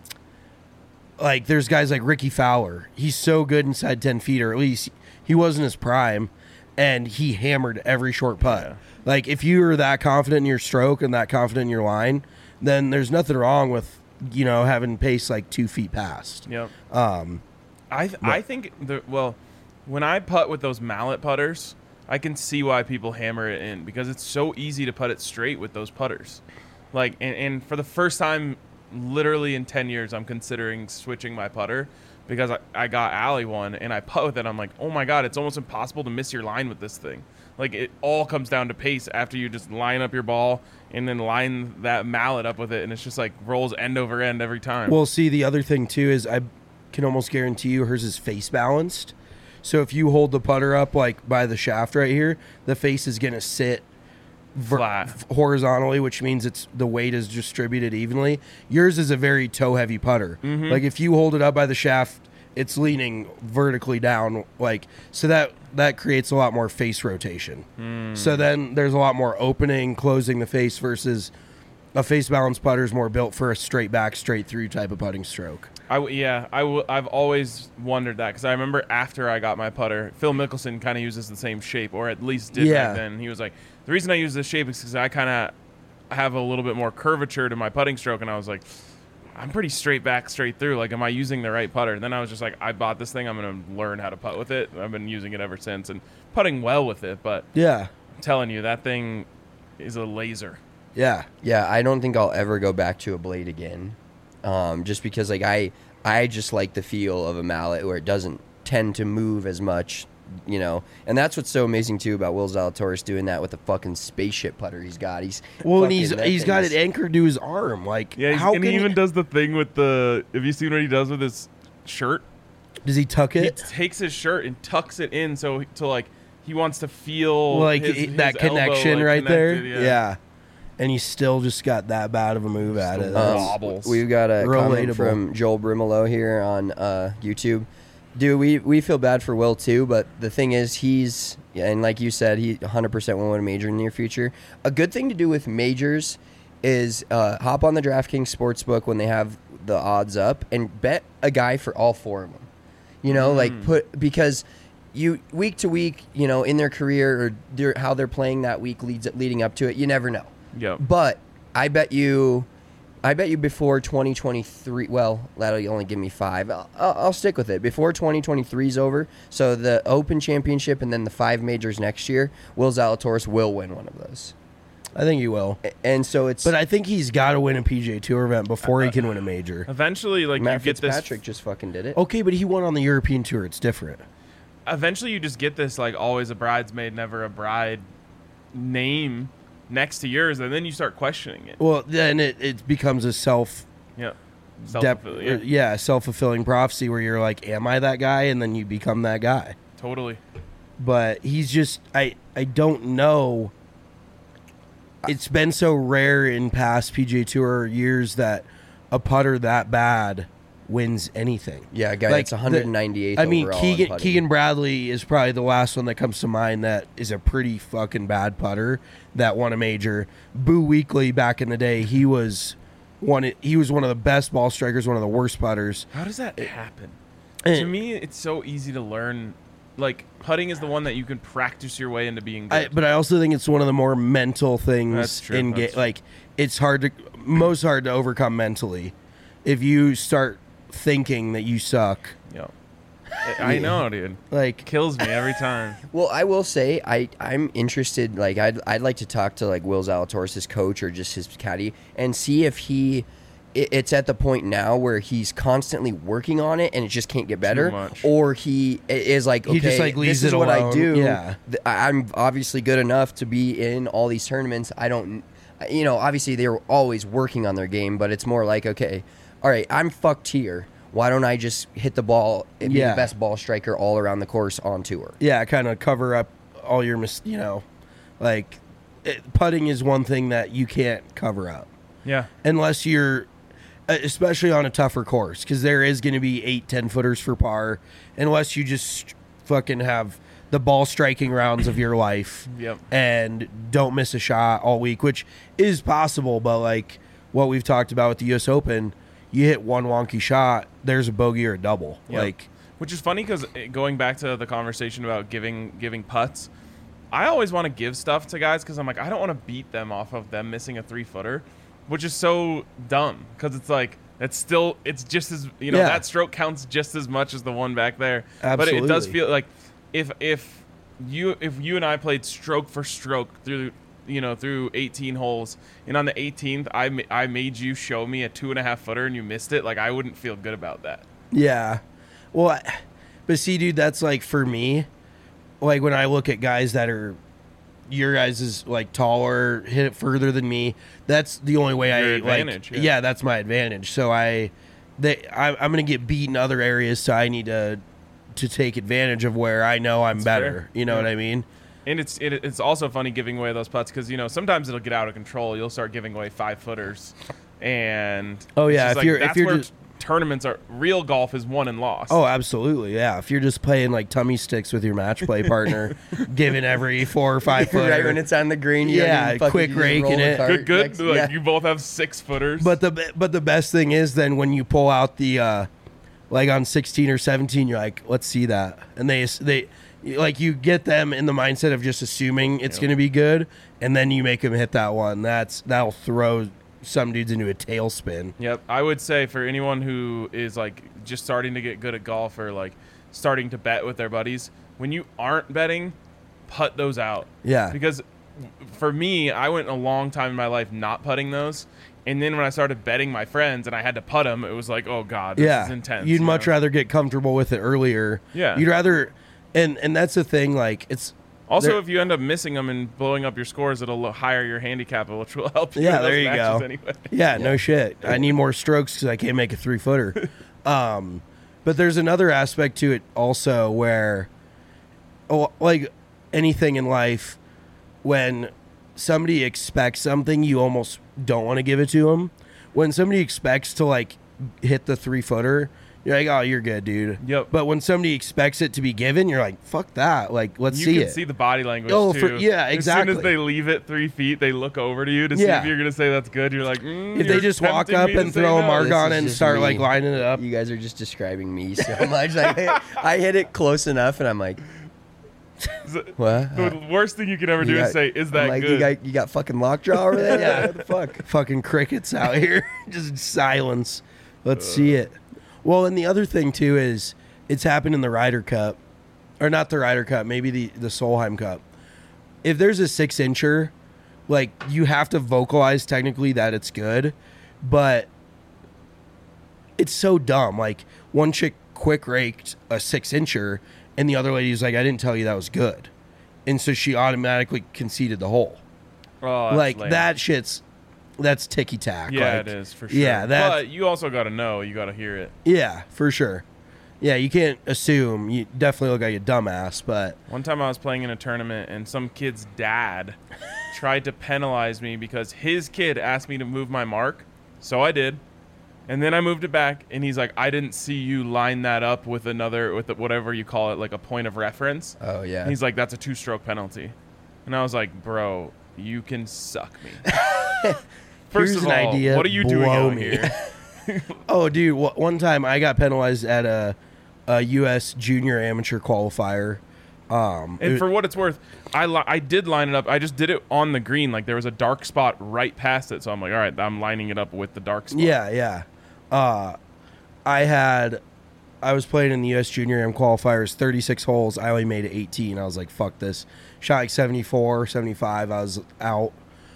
like there's guys like Ricky Fowler. He's so good inside ten feet, or at least he was in his prime, and he hammered every short putt. Yeah. Like, if you're that confident in your stroke and that confident in your line, then there's nothing wrong with, you know, having pace like two feet past. Yep. Um, I th- I think the well, when I putt with those mallet putters, I can see why people hammer it in because it's so easy to putt it straight with those putters. Like, and, and for the first time, literally in ten years, I'm considering switching my putter because I, I got Allie one and I putt with it. I'm like, oh my god, it's almost impossible to miss your line with this thing. Like, it all comes down to pace after you just line up your ball and then line that mallet up with it, and it's just like rolls end over end every time. Well, see, the other thing too is I can almost guarantee you hers is face balanced. So if you hold the putter up like by the shaft right here, the face is going to sit ver- Flat. horizontally, which means it's the weight is distributed evenly. Yours is a very toe heavy putter. Mm-hmm. Like, if you hold it up by the shaft, it's leaning vertically down, like, so that that creates a lot more face rotation. Mm. So then there's a lot more opening, closing the face versus a face balance putter is more built for a straight back, straight through type of putting stroke. I w- yeah, I w- I've always wondered that because I remember after I got my putter, Phil Mickelson kind of uses the same shape, or at least did Yeah. back then. He was like, the reason I use this shape is because I kind of have a little bit more curvature to my putting stroke, and I was like, I'm pretty straight back, straight through. Like, am I using the right putter? And then I was just like, I bought this thing. I'm going to learn how to putt with it. I've been using it ever since and putting well with it. But Yeah, I'm telling you, that thing is a laser. yeah. Yeah, I don't think I'll ever go back to a blade again, um, just because like I I just like the feel of a mallet where it doesn't tend to move as much, you know. And that's what's so amazing too about Will Zalatoris doing that with the fucking spaceship putter he's got. He's Well, and fucking- he's that he's thing got is- it anchored to his arm. Like, Yeah, he's, how and can he even he, does the thing with the. Have you seen what he does with his shirt? does he tuck He it? takes his shirt and tucks it in so to like he wants to feel Like his- it- his that elbow, connection like, right there. connected, Yeah. And he's still just got that bad of a move at it. Still That's- Um, wobbles. We've got a comment Relatable. from Joel Brimolo here on uh, YouTube. Dude, we, we feel bad for Will too, but the thing is, he's, yeah, and like you said, he one hundred percent will win a major in the near future. A good thing to do with majors is uh, hop on the DraftKings Sportsbook when they have the odds up and bet a guy for all four of them. You know, like put, because you, week to week, you know, in their career or their, how they're playing that week leads leading up to it, you never know. Yep. But I bet you, I bet you before twenty twenty-three. Well, that'll only give me five. I'll, I'll, I'll stick with it before twenty twenty-three is over. So the Open Championship and then the five majors next year, Will Zalatoris will win one of those. I think he will. A- And so it's. But I think he's got to win a P G A Tour event before he can win a major. Eventually, like Matt you get this. Fitzpatrick just fucking did it. Okay, but he won on the European Tour. It's different. Eventually, you just get this like always a bridesmaid, never a bride name next to yours, and then you start questioning it. Well, then it, it becomes a self Yeah. dep- Self-fulfilling. Yeah. yeah, self-fulfilling prophecy where you're like, am I that guy? And then you become that guy. Totally. But he's just I I don't know. It's been so rare in past P G A Tour years that a putter that bad wins anything. Yeah, a guy Like, that's one ninety-eighth I mean, overall in Keegan putting. Keegan Bradley is probably the last one that comes to mind that is a pretty fucking bad putter that won a major. Boo Weekley back in the day, he was one. He was one of the best ball strikers, one of the worst putters. How does that happen? Eh. To me, it's so easy to learn. Like, putting is the one that you can practice your way into being good. I, but I also think it's one of the more mental things That's true, in that's ga- true. like it's hard to most hard to overcome mentally if you start thinking that you suck. Yo. I I know, dude. Like Kills me every time. Well, I will say I I'm interested. Like I'd I'd like to talk to like Will Zalatoris, his coach, or just his caddy, and see if he. it- It's at the point now where he's constantly working on it, and it just can't get better. much. Or he i- is like, okay, He just, like, leaves this is it what I alone. do. Yeah. Th- I- I'm obviously good enough to be in all these tournaments. I don't, you know, obviously they're always working on their game, but it's more like, okay, all right, I'm fucked here. Why don't I just hit the ball and be Yeah. the best ball striker all around the course on tour? yeah, kind of cover up all your mis- you know, like it, putting is one thing that you can't cover up Yeah. unless you're uh, especially on a tougher course because there is going to be eight ten footers for par unless you just fucking have the ball striking rounds of your life Yep. and don't miss a shot all week, which is possible, but like what we've talked about with the U S Open, you hit one wonky shot, there's a bogey or a double. Yep. Like Which is funny because going back to the conversation about giving giving putts, I always want to give stuff to guys because I'm like, I don't want to beat them off of them missing a three footer, which is so dumb because it's like it's still it's just as you know Yeah. that stroke counts just as much as the one back there. But it does Absolutely. feel like if if you if you and I played stroke for stroke through you know through eighteen holes and on the eighteenth I ma- I made you show me a two and a half footer and you missed it, like I wouldn't feel good about that. Yeah. Well, I- but see, dude, that's like for me, like when I look at guys that are your guys is like taller, hit it further than me. That's the only way Your I advantage, like. yeah. Yeah. That's my advantage. So I, they, I, I'm gonna get beat in other areas. So I need to, to take advantage of where I know I'm That's better. fair. You know Yeah. what I mean? And it's it, it's also funny giving away those putts because you know sometimes it'll get out of control. You'll start giving away five footers, and Oh, it's yeah, just if like, you're- if that's you're where just- tournaments are. Real golf is won and lost. Oh, absolutely. Yeah. If you're just playing like tummy sticks with your match play partner, giving every four or five footer. Right when it's on the green, you Yeah, don't even fucking- quick you just rake roll in the it. cart good, good. next- like yeah. you both have six footers. But the but the best thing is then when you pull out the uh, like on sixteen or seventeen, you're like, let's see that, and they they like you get them in the mindset of just assuming it's Yep. going to be good, and then you make them hit that one. That's that'll throw some dudes into a tailspin. Yep, I would say for anyone who is like just starting to get good at golf or like starting to bet with their buddies, when you aren't betting, putt those out. Yeah. Because for me, I went a long time in my life not putting those, and then when I started betting my friends and I had to putt them, it was like, oh god, this yeah, is intense. you'd you much know? rather get comfortable with it earlier. Yeah. you'd rather, and and that's the thing. Like it's Also, there- if you end up missing them and blowing up your scores, it'll lo- higher your handicap, which will help you. Yeah, in those there you matches go. Anyway. Yeah, no shit. I need more strokes because I can't make a three footer. um, but there's another aspect to it also where, oh, like anything in life, when somebody expects something, you almost don't want to give it to them. When somebody expects to like hit the three footer, you're like, oh, you're good, dude. Yep. But when somebody expects it to be given, you're like, fuck that. Like, let's You see can it. see the body language Oh, too. for- yeah, As exactly. soon as they leave it three feet, they look over to you to see Yeah. if you're gonna say that's good. You're like, mm, if they you're just walk tempting up me to and say throw a no. mark This on is it and just start me. like lining it up, You guys are just describing me so much. Like, I, I hit it close enough, and I'm like, what? The worst thing you can ever You do got- is say, "Is I'm that like, good?" You got, you got fucking lockjaw over there? Yeah. What the fuck? fucking crickets out here, just silence. Let's see it. Well, and the other thing too is it's happened in the Ryder Cup, or not the Ryder Cup, maybe the the Solheim Cup. If there's a six incher, like you have to vocalize technically that it's good, but it's so dumb. Like one chick quick raked a six incher, and the other lady's like, "I didn't tell you that was good," and so she automatically conceded the hole. Oh, that's like lame. that shit's that's ticky tack. Yeah, like, it is for sure. Yeah, that. But you also got to know. You got to hear it. Yeah, for sure. Yeah, you can't assume. You definitely look like a dumbass, but One time I was playing in a tournament and some kid's dad tried to penalize me because his kid asked me to move my mark. So I did. And then I moved it back and he's like, I didn't see you line that up with another, with whatever you call it, like a point of reference. Oh, yeah. And he's like, that's a two stroke penalty. And I was like, bro, you can suck me. First Here's of an all, idea, what are you doing blow out me. here? oh, dude, wh- one time I got penalized at a, a U S junior amateur qualifier. Um, And it- for what it's worth, I li- I did line it up. I just did it on the green. Like there was a dark spot right past it. So I'm like, all right, I'm lining it up with the dark spot. yeah, yeah. Uh, I had, I was playing in the U S junior am qualifiers, thirty-six holes. I only made it eighteen. I was like, fuck this. Shot like seventy-four, seventy-five. I was out.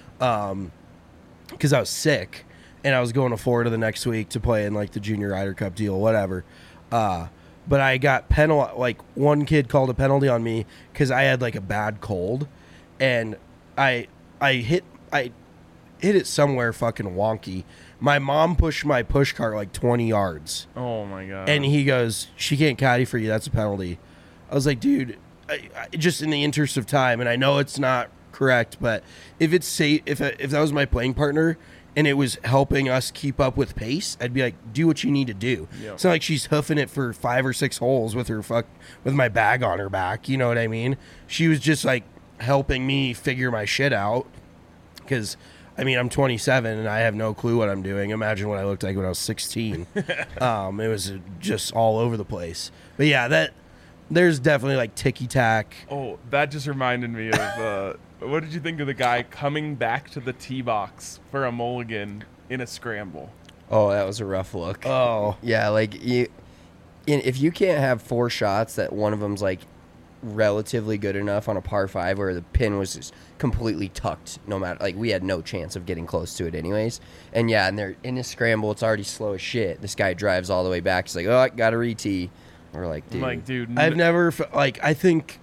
Um, because I was sick and I was going to Florida the next week to play in like the Junior Ryder Cup deal, whatever. Uh, but I got penal. Like one kid called a penalty on me because I had like a bad cold, and I I hit I hit it somewhere fucking wonky. My mom pushed my push cart like twenty yards, Oh my god. and he goes, "She can't caddy for you. That's a penalty." I was like, "Dude, I, I, just in the interest of time, and I know it's not correct, but if it's safe, if if that was my playing partner and it was helping us keep up with pace, I'd be like, do what you need to do. Yep. It's not like she's hoofing it for five or six holes with her fuck with my bag on her back. You know what I mean? She was just like helping me figure my shit out because." I mean, I'm twenty-seven and I have no clue what I'm doing. Imagine what I looked like when I was sixteen. um, it was just all over the place. But yeah, that there's definitely like ticky tack. Oh, that just reminded me of uh, what did you think of the guy coming back to the tee box for a mulligan in a scramble? Oh, that was a rough look. Oh, Yeah, like you, in, if you can't have four shots that one of them's like relatively good enough on a par five where the pin was just completely tucked, no matter like we had no chance of getting close to it anyways. And yeah, and they're in a scramble, it's already slow as shit. This guy drives all the way back. He's like, oh, I gotta re-tee. We're like, dude, I'm like, dude, I've n- never f- like I think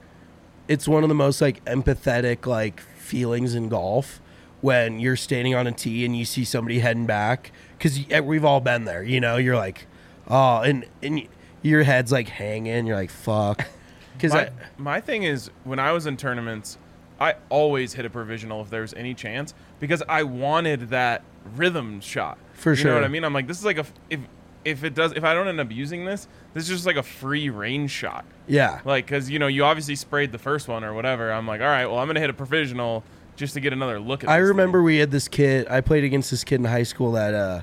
it's one of the most like empathetic like feelings in golf when you're standing on a tee and you see somebody heading back because we've all been there. You know, you're like, oh, and and your head's like hanging. You're like, fuck. Because my, my thing is when I was in tournaments, I always hit a provisional if there was any chance because I wanted that rhythm shot. For you sure. know what I mean? I'm like, this is like a if if it does if I don't end up using this, this is just like a free range shot. yeah, Like, because you know you obviously sprayed the first one or whatever. I'm like, all right, well I'm gonna hit a provisional just to get another look at. I this remember thing. we had this kid. I played against this kid in high school that uh,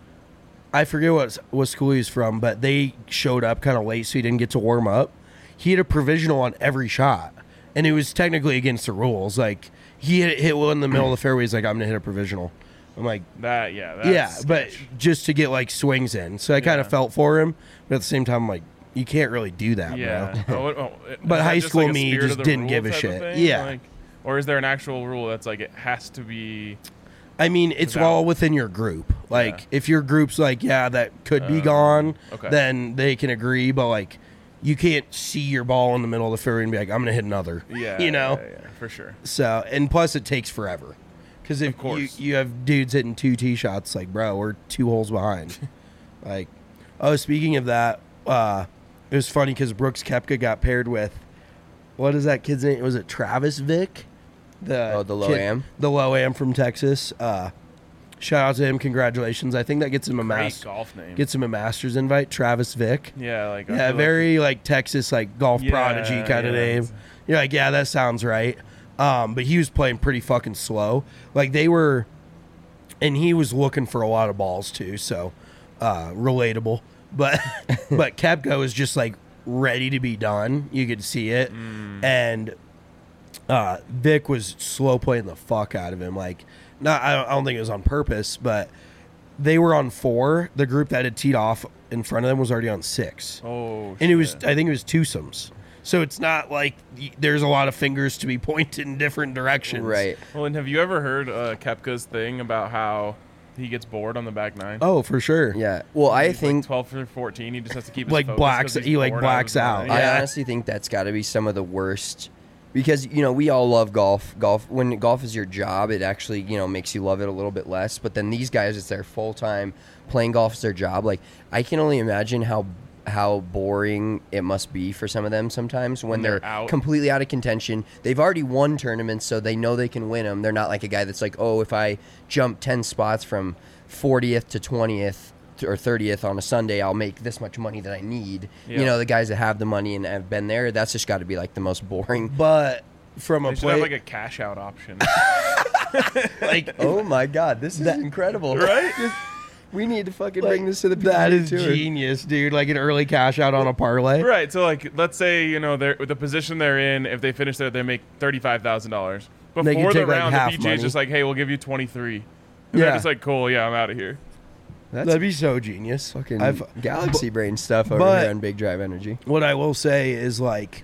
I forget what what school he was from, but they showed up kind of late, so he didn't get to warm up. He had a provisional on every shot, and it was technically against the rules. Like he hit, hit one in the middle of the fairway. He's like, "I'm gonna hit a provisional." I'm like, that. Yeah, that's "Yeah," but sketch. just to get like swings in. So I kind Yeah. of felt for him, but at the same time, I'm like, you can't really do that, yeah. bro. Oh, it- oh, it- But is that high just school like a me spirit just of the didn't rule give a type of shit. thing? Yeah. Like, or is there an actual rule that's like it has to be? I mean, it's Valid. all within your group. Like, Yeah. if your group's like, yeah, that could be Um, gone, okay. then they can agree. But like, you can't see your ball in the middle of the fairway and be like, I'm gonna hit another. Yeah, you know. yeah, yeah, for sure. So, and plus, it takes forever. Because if Of course. You, you have dudes hitting two tee shots, like, bro, we're two holes behind. like, oh, speaking of that, uh, it was funny because Brooks Koepka got paired with, what is that kid's name? Was it Travis Vick? The Oh, the low kid- am? The low am from Texas. Uh, shout out to him. Congratulations. I think that gets him a Great mas- golf name. gets him a Masters invite. Travis Vick. yeah, like I Yeah, feel very like Texas, like golf Yeah, prodigy kind of yeah, name. it's- You're like, yeah, that sounds right. Um, but he was playing pretty fucking slow. Like they were, and he was looking for a lot of balls too. So, uh, relatable. But but Koepka was just like ready to be done. You could see it, Mm. and uh, Vic was slow playing the fuck out of him. Like, not I don't, I don't think it was on purpose, but they were on four. The group that had teed off in front of them was already on six. Oh, And it was, shit. I think it was twosomes. So it's not like y- there's a lot of fingers to be pointed in different directions. right. Well, and have you ever heard uh, Koepka's thing about how he gets bored on the back nine? Oh, for sure. Yeah. Well, I He's think like twelve or fourteen. He just has to keep his Like focus blacks- 'cause he's he, like, bored blacks of his out. mind. I Yeah. honestly think that's got to be some of the worst because you know we all love golf. Golf when golf is your job, it actually you know makes you love it a little bit less. But then these guys, it's their full time. Playing golf is their job. Like I can only imagine how how boring it must be for some of them sometimes when, when they're, they're out. completely out of contention. They've already won tournaments, so they know they can win them. They're not like a guy that's like, oh, if I jump ten spots from fortieth to twentieth or thirtieth on a Sunday, I'll make this much money that I need. Yeah. You know, the guys that have the money and have been there, that's just got to be like the most boring. But from a They should play, have like a cash out option. like Oh my God, this is incredible! Right? We need to fucking like, bring this to the P G A that is Tour. genius, dude. Like an early cash out on a parlay. Right. So like, let's say you know they're the position they're in. If they finish there, they make thirty five thousand dollars. They can Before the take, like, round, half the P G A is money. just like, hey, we'll give you twenty three. And Yeah. they're just like, cool, yeah, I'm out of here. That's That'd be so genius. fucking I've- galaxy brain stuff over but- here on Big Drive Energy. What I will say is like,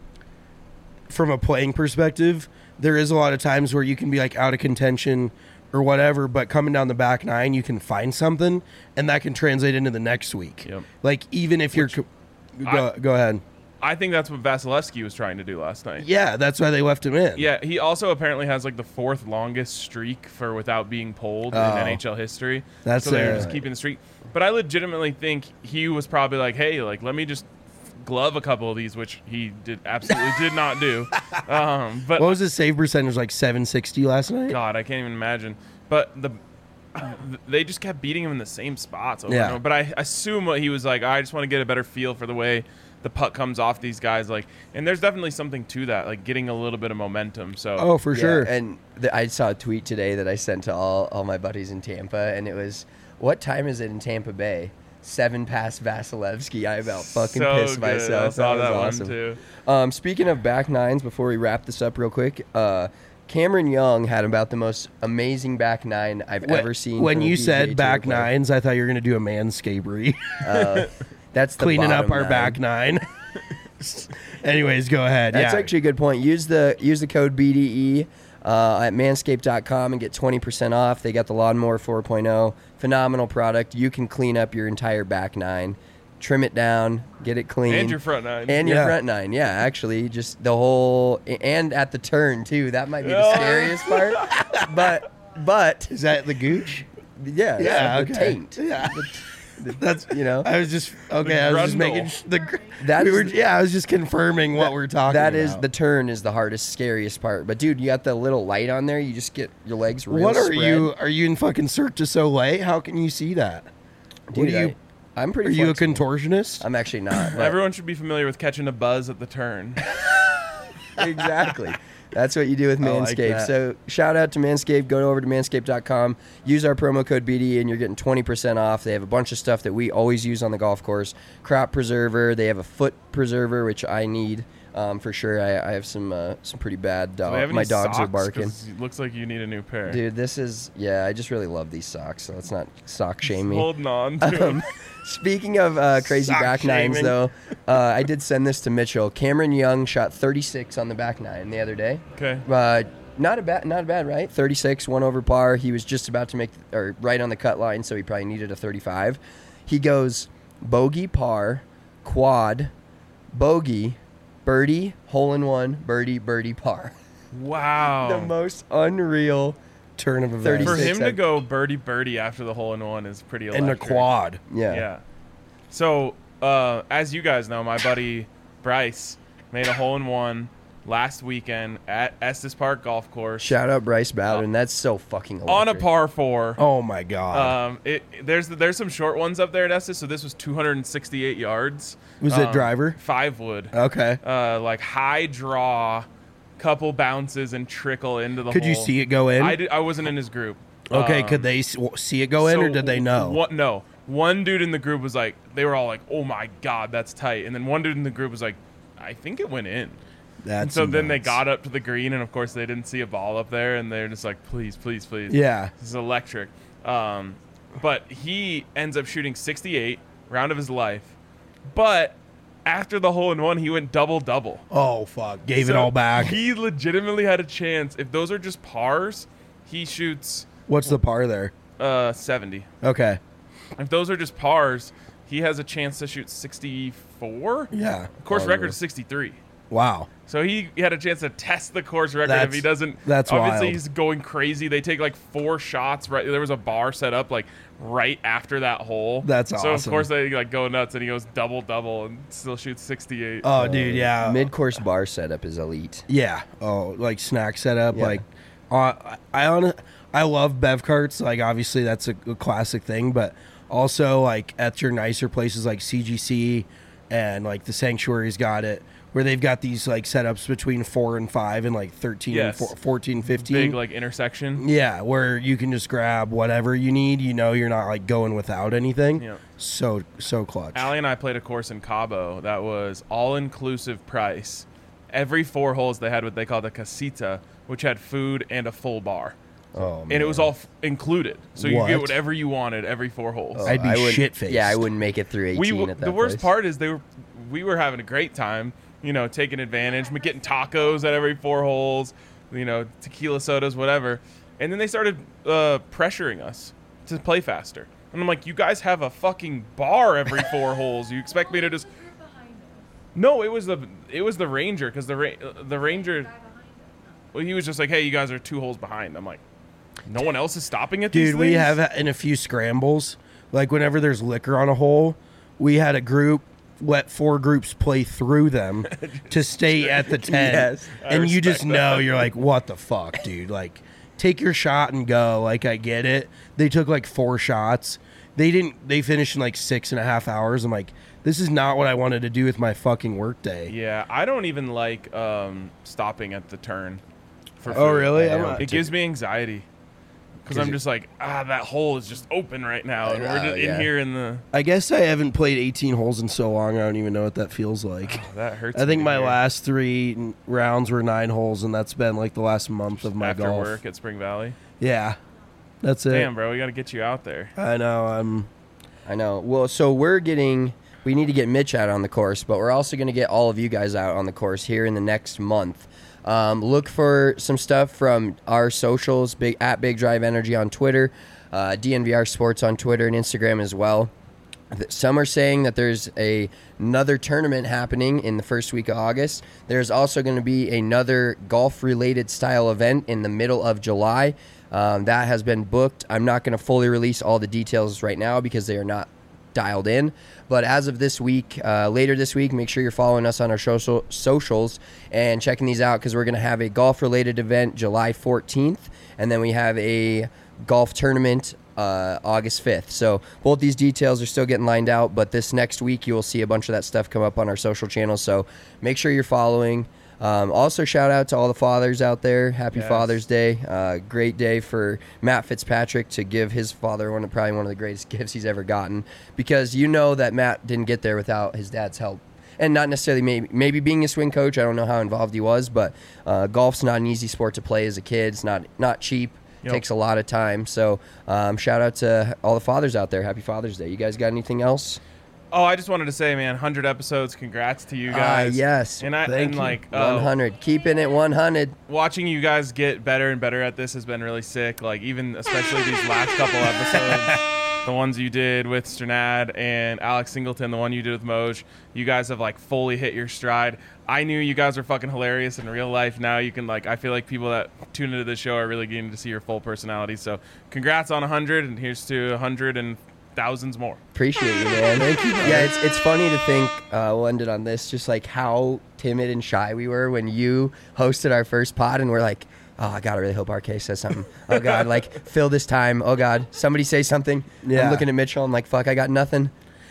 from a playing perspective, there is a lot of times where you can be like out of contention or whatever, but coming down the back nine, you can find something, and that can translate into the next week. Yep. Like even if you're, co- go, I- go ahead. I think that's what Vasilevsky was trying to do last night. Yeah, that's why they left him in. Yeah, he also apparently has like the fourth longest streak for without being pulled Oh. in N H L history. That's so they're uh, just keeping the streak. But I legitimately think he was probably like, hey, like let me just glove a couple of these, which he did absolutely did not do. Um, but What was his save percentage? Like seven sixty last night. God, I can't even imagine. But the they just kept beating him in the same spots over Yeah. and over. But I assume what he was like, I just want to get a better feel for the way the puck comes off these guys. Like, and there's definitely something to that, like getting a little bit of momentum. So Oh, for Yeah, sure. And the, I saw a tweet today that I sent to all, all my buddies in Tampa, and it was, what time is it in Tampa Bay? Seven past Vasilevsky. I about fucking so pissed good. myself. I saw that that, was one awesome. too. Um, speaking of back nines, before we wrap this up real quick, uh, Cameron Young had about the most amazing back nine I've When- ever seen. When from a you P G A said Tour back player. nines, I thought you were gonna do a manscapery, uh, that's the cleaning up bottom our nine. back nine. Anyways, go ahead. That's yeah. actually a good point. Use the use the code B D E uh, at manscaped dot com and get twenty percent off. They got the Lawnmower four point oh. Phenomenal product. You can clean up your entire back nine, trim it down, get it clean. And your front nine. And your Yeah. front nine. Yeah, actually, just the whole and at the turn too. That might be the Yeah. scariest part. But but Is that the gooch? yeah, Yeah, the okay. taint. Yeah. That's You know. I was just okay. I was just grundle. making sh- the. gr- That's we were, the- yeah, I was just confirming what we're talking. That about. is the turn is the hardest, scariest part. But dude, you got the little light on there. You just get your legs real What are spread. you? Are you in fucking Cirque du Soleil? How can you see that? Dude, what are you? I, I'm pretty. Are you a flexible. contortionist? I'm actually not. but- Everyone should be familiar with catching a buzz at the turn. exactly. That's what you do with I like Manscaped. that. So shout out to Manscaped. Go over to manscaped dot com. Use our promo code B D E and you're getting twenty percent off. They have a bunch of stuff that we always use on the golf course. Crop preserver. They have a foot preserver, which I need um, for sure. I, I have some uh, some pretty bad Do they dog. have any My dogs are socks? barking. 'Cause it looks like you need a new pair. Dude, this is yeah. I just really love these socks. So let's not sock shame me. Holding on to Um, them. Speaking of uh, crazy Sock back nines, shaming. though, uh, I did send this to Mitchell. Cameron Young shot thirty-six on the back nine the other day. Okay. Uh, not a bad, not a bad, right? thirty-six, one over par. He was just about to make, or right on the cut line, so he probably needed a thirty-five. He goes bogey, par, quad, bogey, birdie, hole in one, birdie, birdie, par. Wow. The most unreal. Turn of events. thirty-six. For him to I've- go birdie birdie after the hole in one is pretty and electric. a quad. Yeah. Yeah. So, uh, as you guys know, my buddy Bryce made a hole in one last weekend at Estes Park Golf Course Shout out Bryce Bowden. That's so fucking electric. on a par four. Oh my god. Um, it there's there's some short ones up there at Estes, so this was two hundred sixty-eight yards. Was it Um, driver? Five wood. Okay. Uh, like high draw, couple bounces and trickle into the Could hole. you see it go in? I, did, I wasn't in his group. Okay. Um, could they s- w- see it go in, or so did they know? What? No. One dude in the group was like, they were all like, "Oh my god, that's tight," and then one dude in the group was like, "I think it went in." That's And so then they nuts. got up to the green, and of course they didn't see a ball up there, and they're just like, "Please, please, please." Yeah. This is electric. Um, but he ends up shooting sixty-eight, round of his life. But after the hole in one, he went double double. Oh fuck! Gave it So all back. He legitimately had a chance. If those are just pars, he shoots What's the par there? uh, seventy. Okay. If those are just pars, he has a chance to shoot sixty-four. Yeah. Of course, Oh, record yeah. is sixty-three. Wow. So he had a chance to test the course record. That's- if he doesn't, that's obviously wild. he's going crazy. They take like four shots. Right, there was a bar set up like right after that hole. That's So of awesome. course they like go nuts, and he goes double double and still shoots sixty-eight. Oh, dude, yeah. Mid-course bar setup is elite. Yeah. Oh, like snack setup. Yeah. Like, uh, I on I love bev carts. Like, obviously that's a, a classic thing, but also like at your nicer places like C G C and like the Sanctuary's got it, where they've got these like setups between four and five and like thirteen, Yes. and four, fourteen, fifteen. Big like intersection. Yeah, where you can just grab whatever you need. You know, you're not like going without anything. Yeah. So so clutch. Allie and I played a course in Cabo that was all-inclusive price. Every four holes they had what they called a casita, which had food and a full bar. Oh, man. And it was all f- included. So you What? get whatever you wanted every four holes. Oh, I'd be I wouldn't- shit-faced. Yeah, I wouldn't make it through eighteen we w- at that the worst place. part is they were we were having a great time, you know, taking advantage, getting tacos at every four holes, you know, tequila sodas, whatever. And then they started uh, pressuring us to play faster. And I'm like, you guys have a fucking bar every four holes. You expect me to just No, it was the it was the ranger because the ra- uh, the ranger well, he was just like, "Hey, you guys are two holes behind." I'm like, "No one else is stopping at these Dude, we things?" have in a few scrambles, like whenever there's liquor on a hole, we had a group let four groups play through them to stay at the ten. Yes, I and you just respect know that. you're like, what the fuck, dude? Like, take your shot and go. Like, I get it. They took like four shots. They didn't. They finished in like six and a half hours. I'm like, this is not what I wanted to do with my fucking workday. Yeah, I don't even like um, stopping at the turn. For Oh, food. really? I I'm know. not- It gives me anxiety because I'm it- just like, ah, that hole is just open right now, and we're know, just yeah. in here in the. I guess I haven't played eighteen holes in so long. I don't even know what that feels like. That hurts. I think me to my hear. last three n- rounds were nine holes, and that's been like the last month of my after golf. work at Spring Valley. Yeah, that's it. Damn, bro, we got to get you out there. I know. I'm. I know. Well, so we're getting, we need to get Mitch out on the course, but we're also going to get all of you guys out on the course here in the next month. Um, look for some stuff from our socials, big at Big Drive Energy on Twitter, uh, D N V R Sports on Twitter and Instagram as well. Th- Some are saying that there's a, another tournament happening in the first week of August. There's also going to be another golf-related style event in the middle of July. Um, that has been booked. I'm not going to fully release all the details right now because they are not dialed in. But as of this week, uh, later this week, make sure you're following us on our social socials and checking these out because we're going to have a golf-related event July fourteenth, and then we have a golf tournament uh, August fifth. So both these details are still getting lined out, but this next week you will see a bunch of that stuff come up on our social channels. So make sure you're following. Um, also, shout out to all the fathers out there. Happy Yes. Father's Day. Uh, great day for Matt Fitzpatrick to give his father one of, probably one of the greatest gifts he's ever gotten, because you know that Matt didn't get there without his dad's help. And not necessarily maybe, maybe being a swing coach. I don't know how involved he was, but uh, golf's not an easy sport to play as a kid. It's not, not cheap. Yep. Takes a lot of time. So um, shout out to all the fathers out there. Happy Father's Day. You guys got anything else? Oh, I just wanted to say, man, one hundred episodes. Congrats to you Ah, guys. yes. And I Thank and you. like uh, one hundred. Keeping it one hundred. watching you guys get better and better at this has been really sick. Like, even especially these last couple episodes, the ones you did with Sternad and Alex Singleton, the one you did with Moj, you guys have like fully hit your stride. I knew you guys were fucking hilarious in real life. Now you can like, I feel like people that tune into the show are really getting to see your full personality. So congrats on one hundred, and here's to one hundred and thousands more. Appreciate you, man. Thank you. Yeah, it's it's funny to think, uh, we'll end it on this, just like how timid and shy we were when you hosted our first pod, and we're like, oh, I God, I really hope R K says something. Oh, God, like, fill this time. Oh, God, somebody say something. Yeah. I'm looking at Mitchell. I'm like, fuck, I got nothing.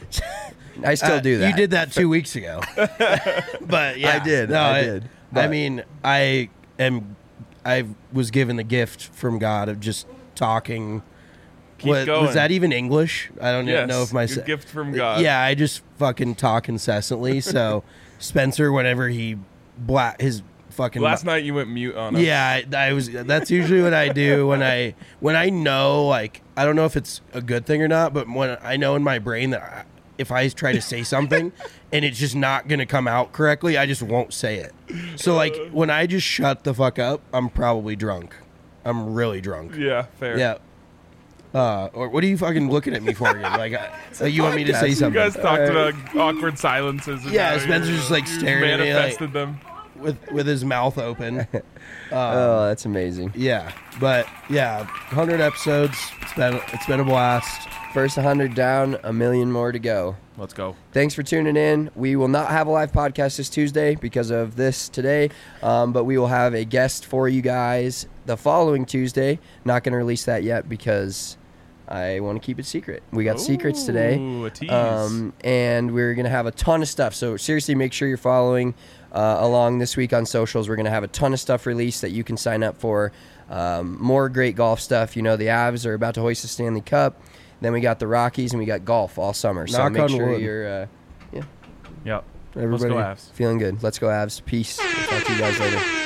I still Uh, do that. You did that two weeks ago. But yeah, I did, No, I it- did, I but- mean, I am. I was given the gift from God of just talking. Keep What- going. Was that even English? I don't Yes, know if my your gift from God. Yeah, I just fucking talk incessantly. So Spencer, whenever he black his fucking Last night you went mute on us. yeah, I, I was. That's usually what I do when I when I know, like, I don't know if it's a good thing or not, but when I know in my brain that I, if I try to say something and it's just not gonna come out correctly, I just won't say it. So like when I just shut the fuck up, I'm probably drunk. I'm really drunk. Yeah, fair. Yeah. Uh, or what are you fucking looking at me for again? Like, I, like you want me to say You something? guys talked about awkward silences. And Yeah, how Spencer's you- just, like, you staring at me, like- manifested them. with with his mouth open. Oh, that's amazing. Yeah, but yeah, one hundred episodes. It's been it's been a blast. First one hundred down, a million more to go. Let's go. Thanks for tuning in. We will not have a live podcast this Tuesday because of this today, um, but we will have a guest for you guys the following Tuesday. Not going to release that yet because I want to keep it secret. We got secrets today. Ooh, a tease. Um, and we're going to have a ton of stuff. So seriously, make sure you're following uh, along this week on socials. We're going to have a ton of stuff released that you can sign up for. Um, more great golf stuff. You know, the Avs are about to hoist the Stanley Cup. Then we got the Rockies, and we got golf all summer. So Knock make on sure wood. you're uh, yeah, Yep. Everybody, Let's go Avs. feeling good. Let's go Avs. Peace. We'll talk to you guys later.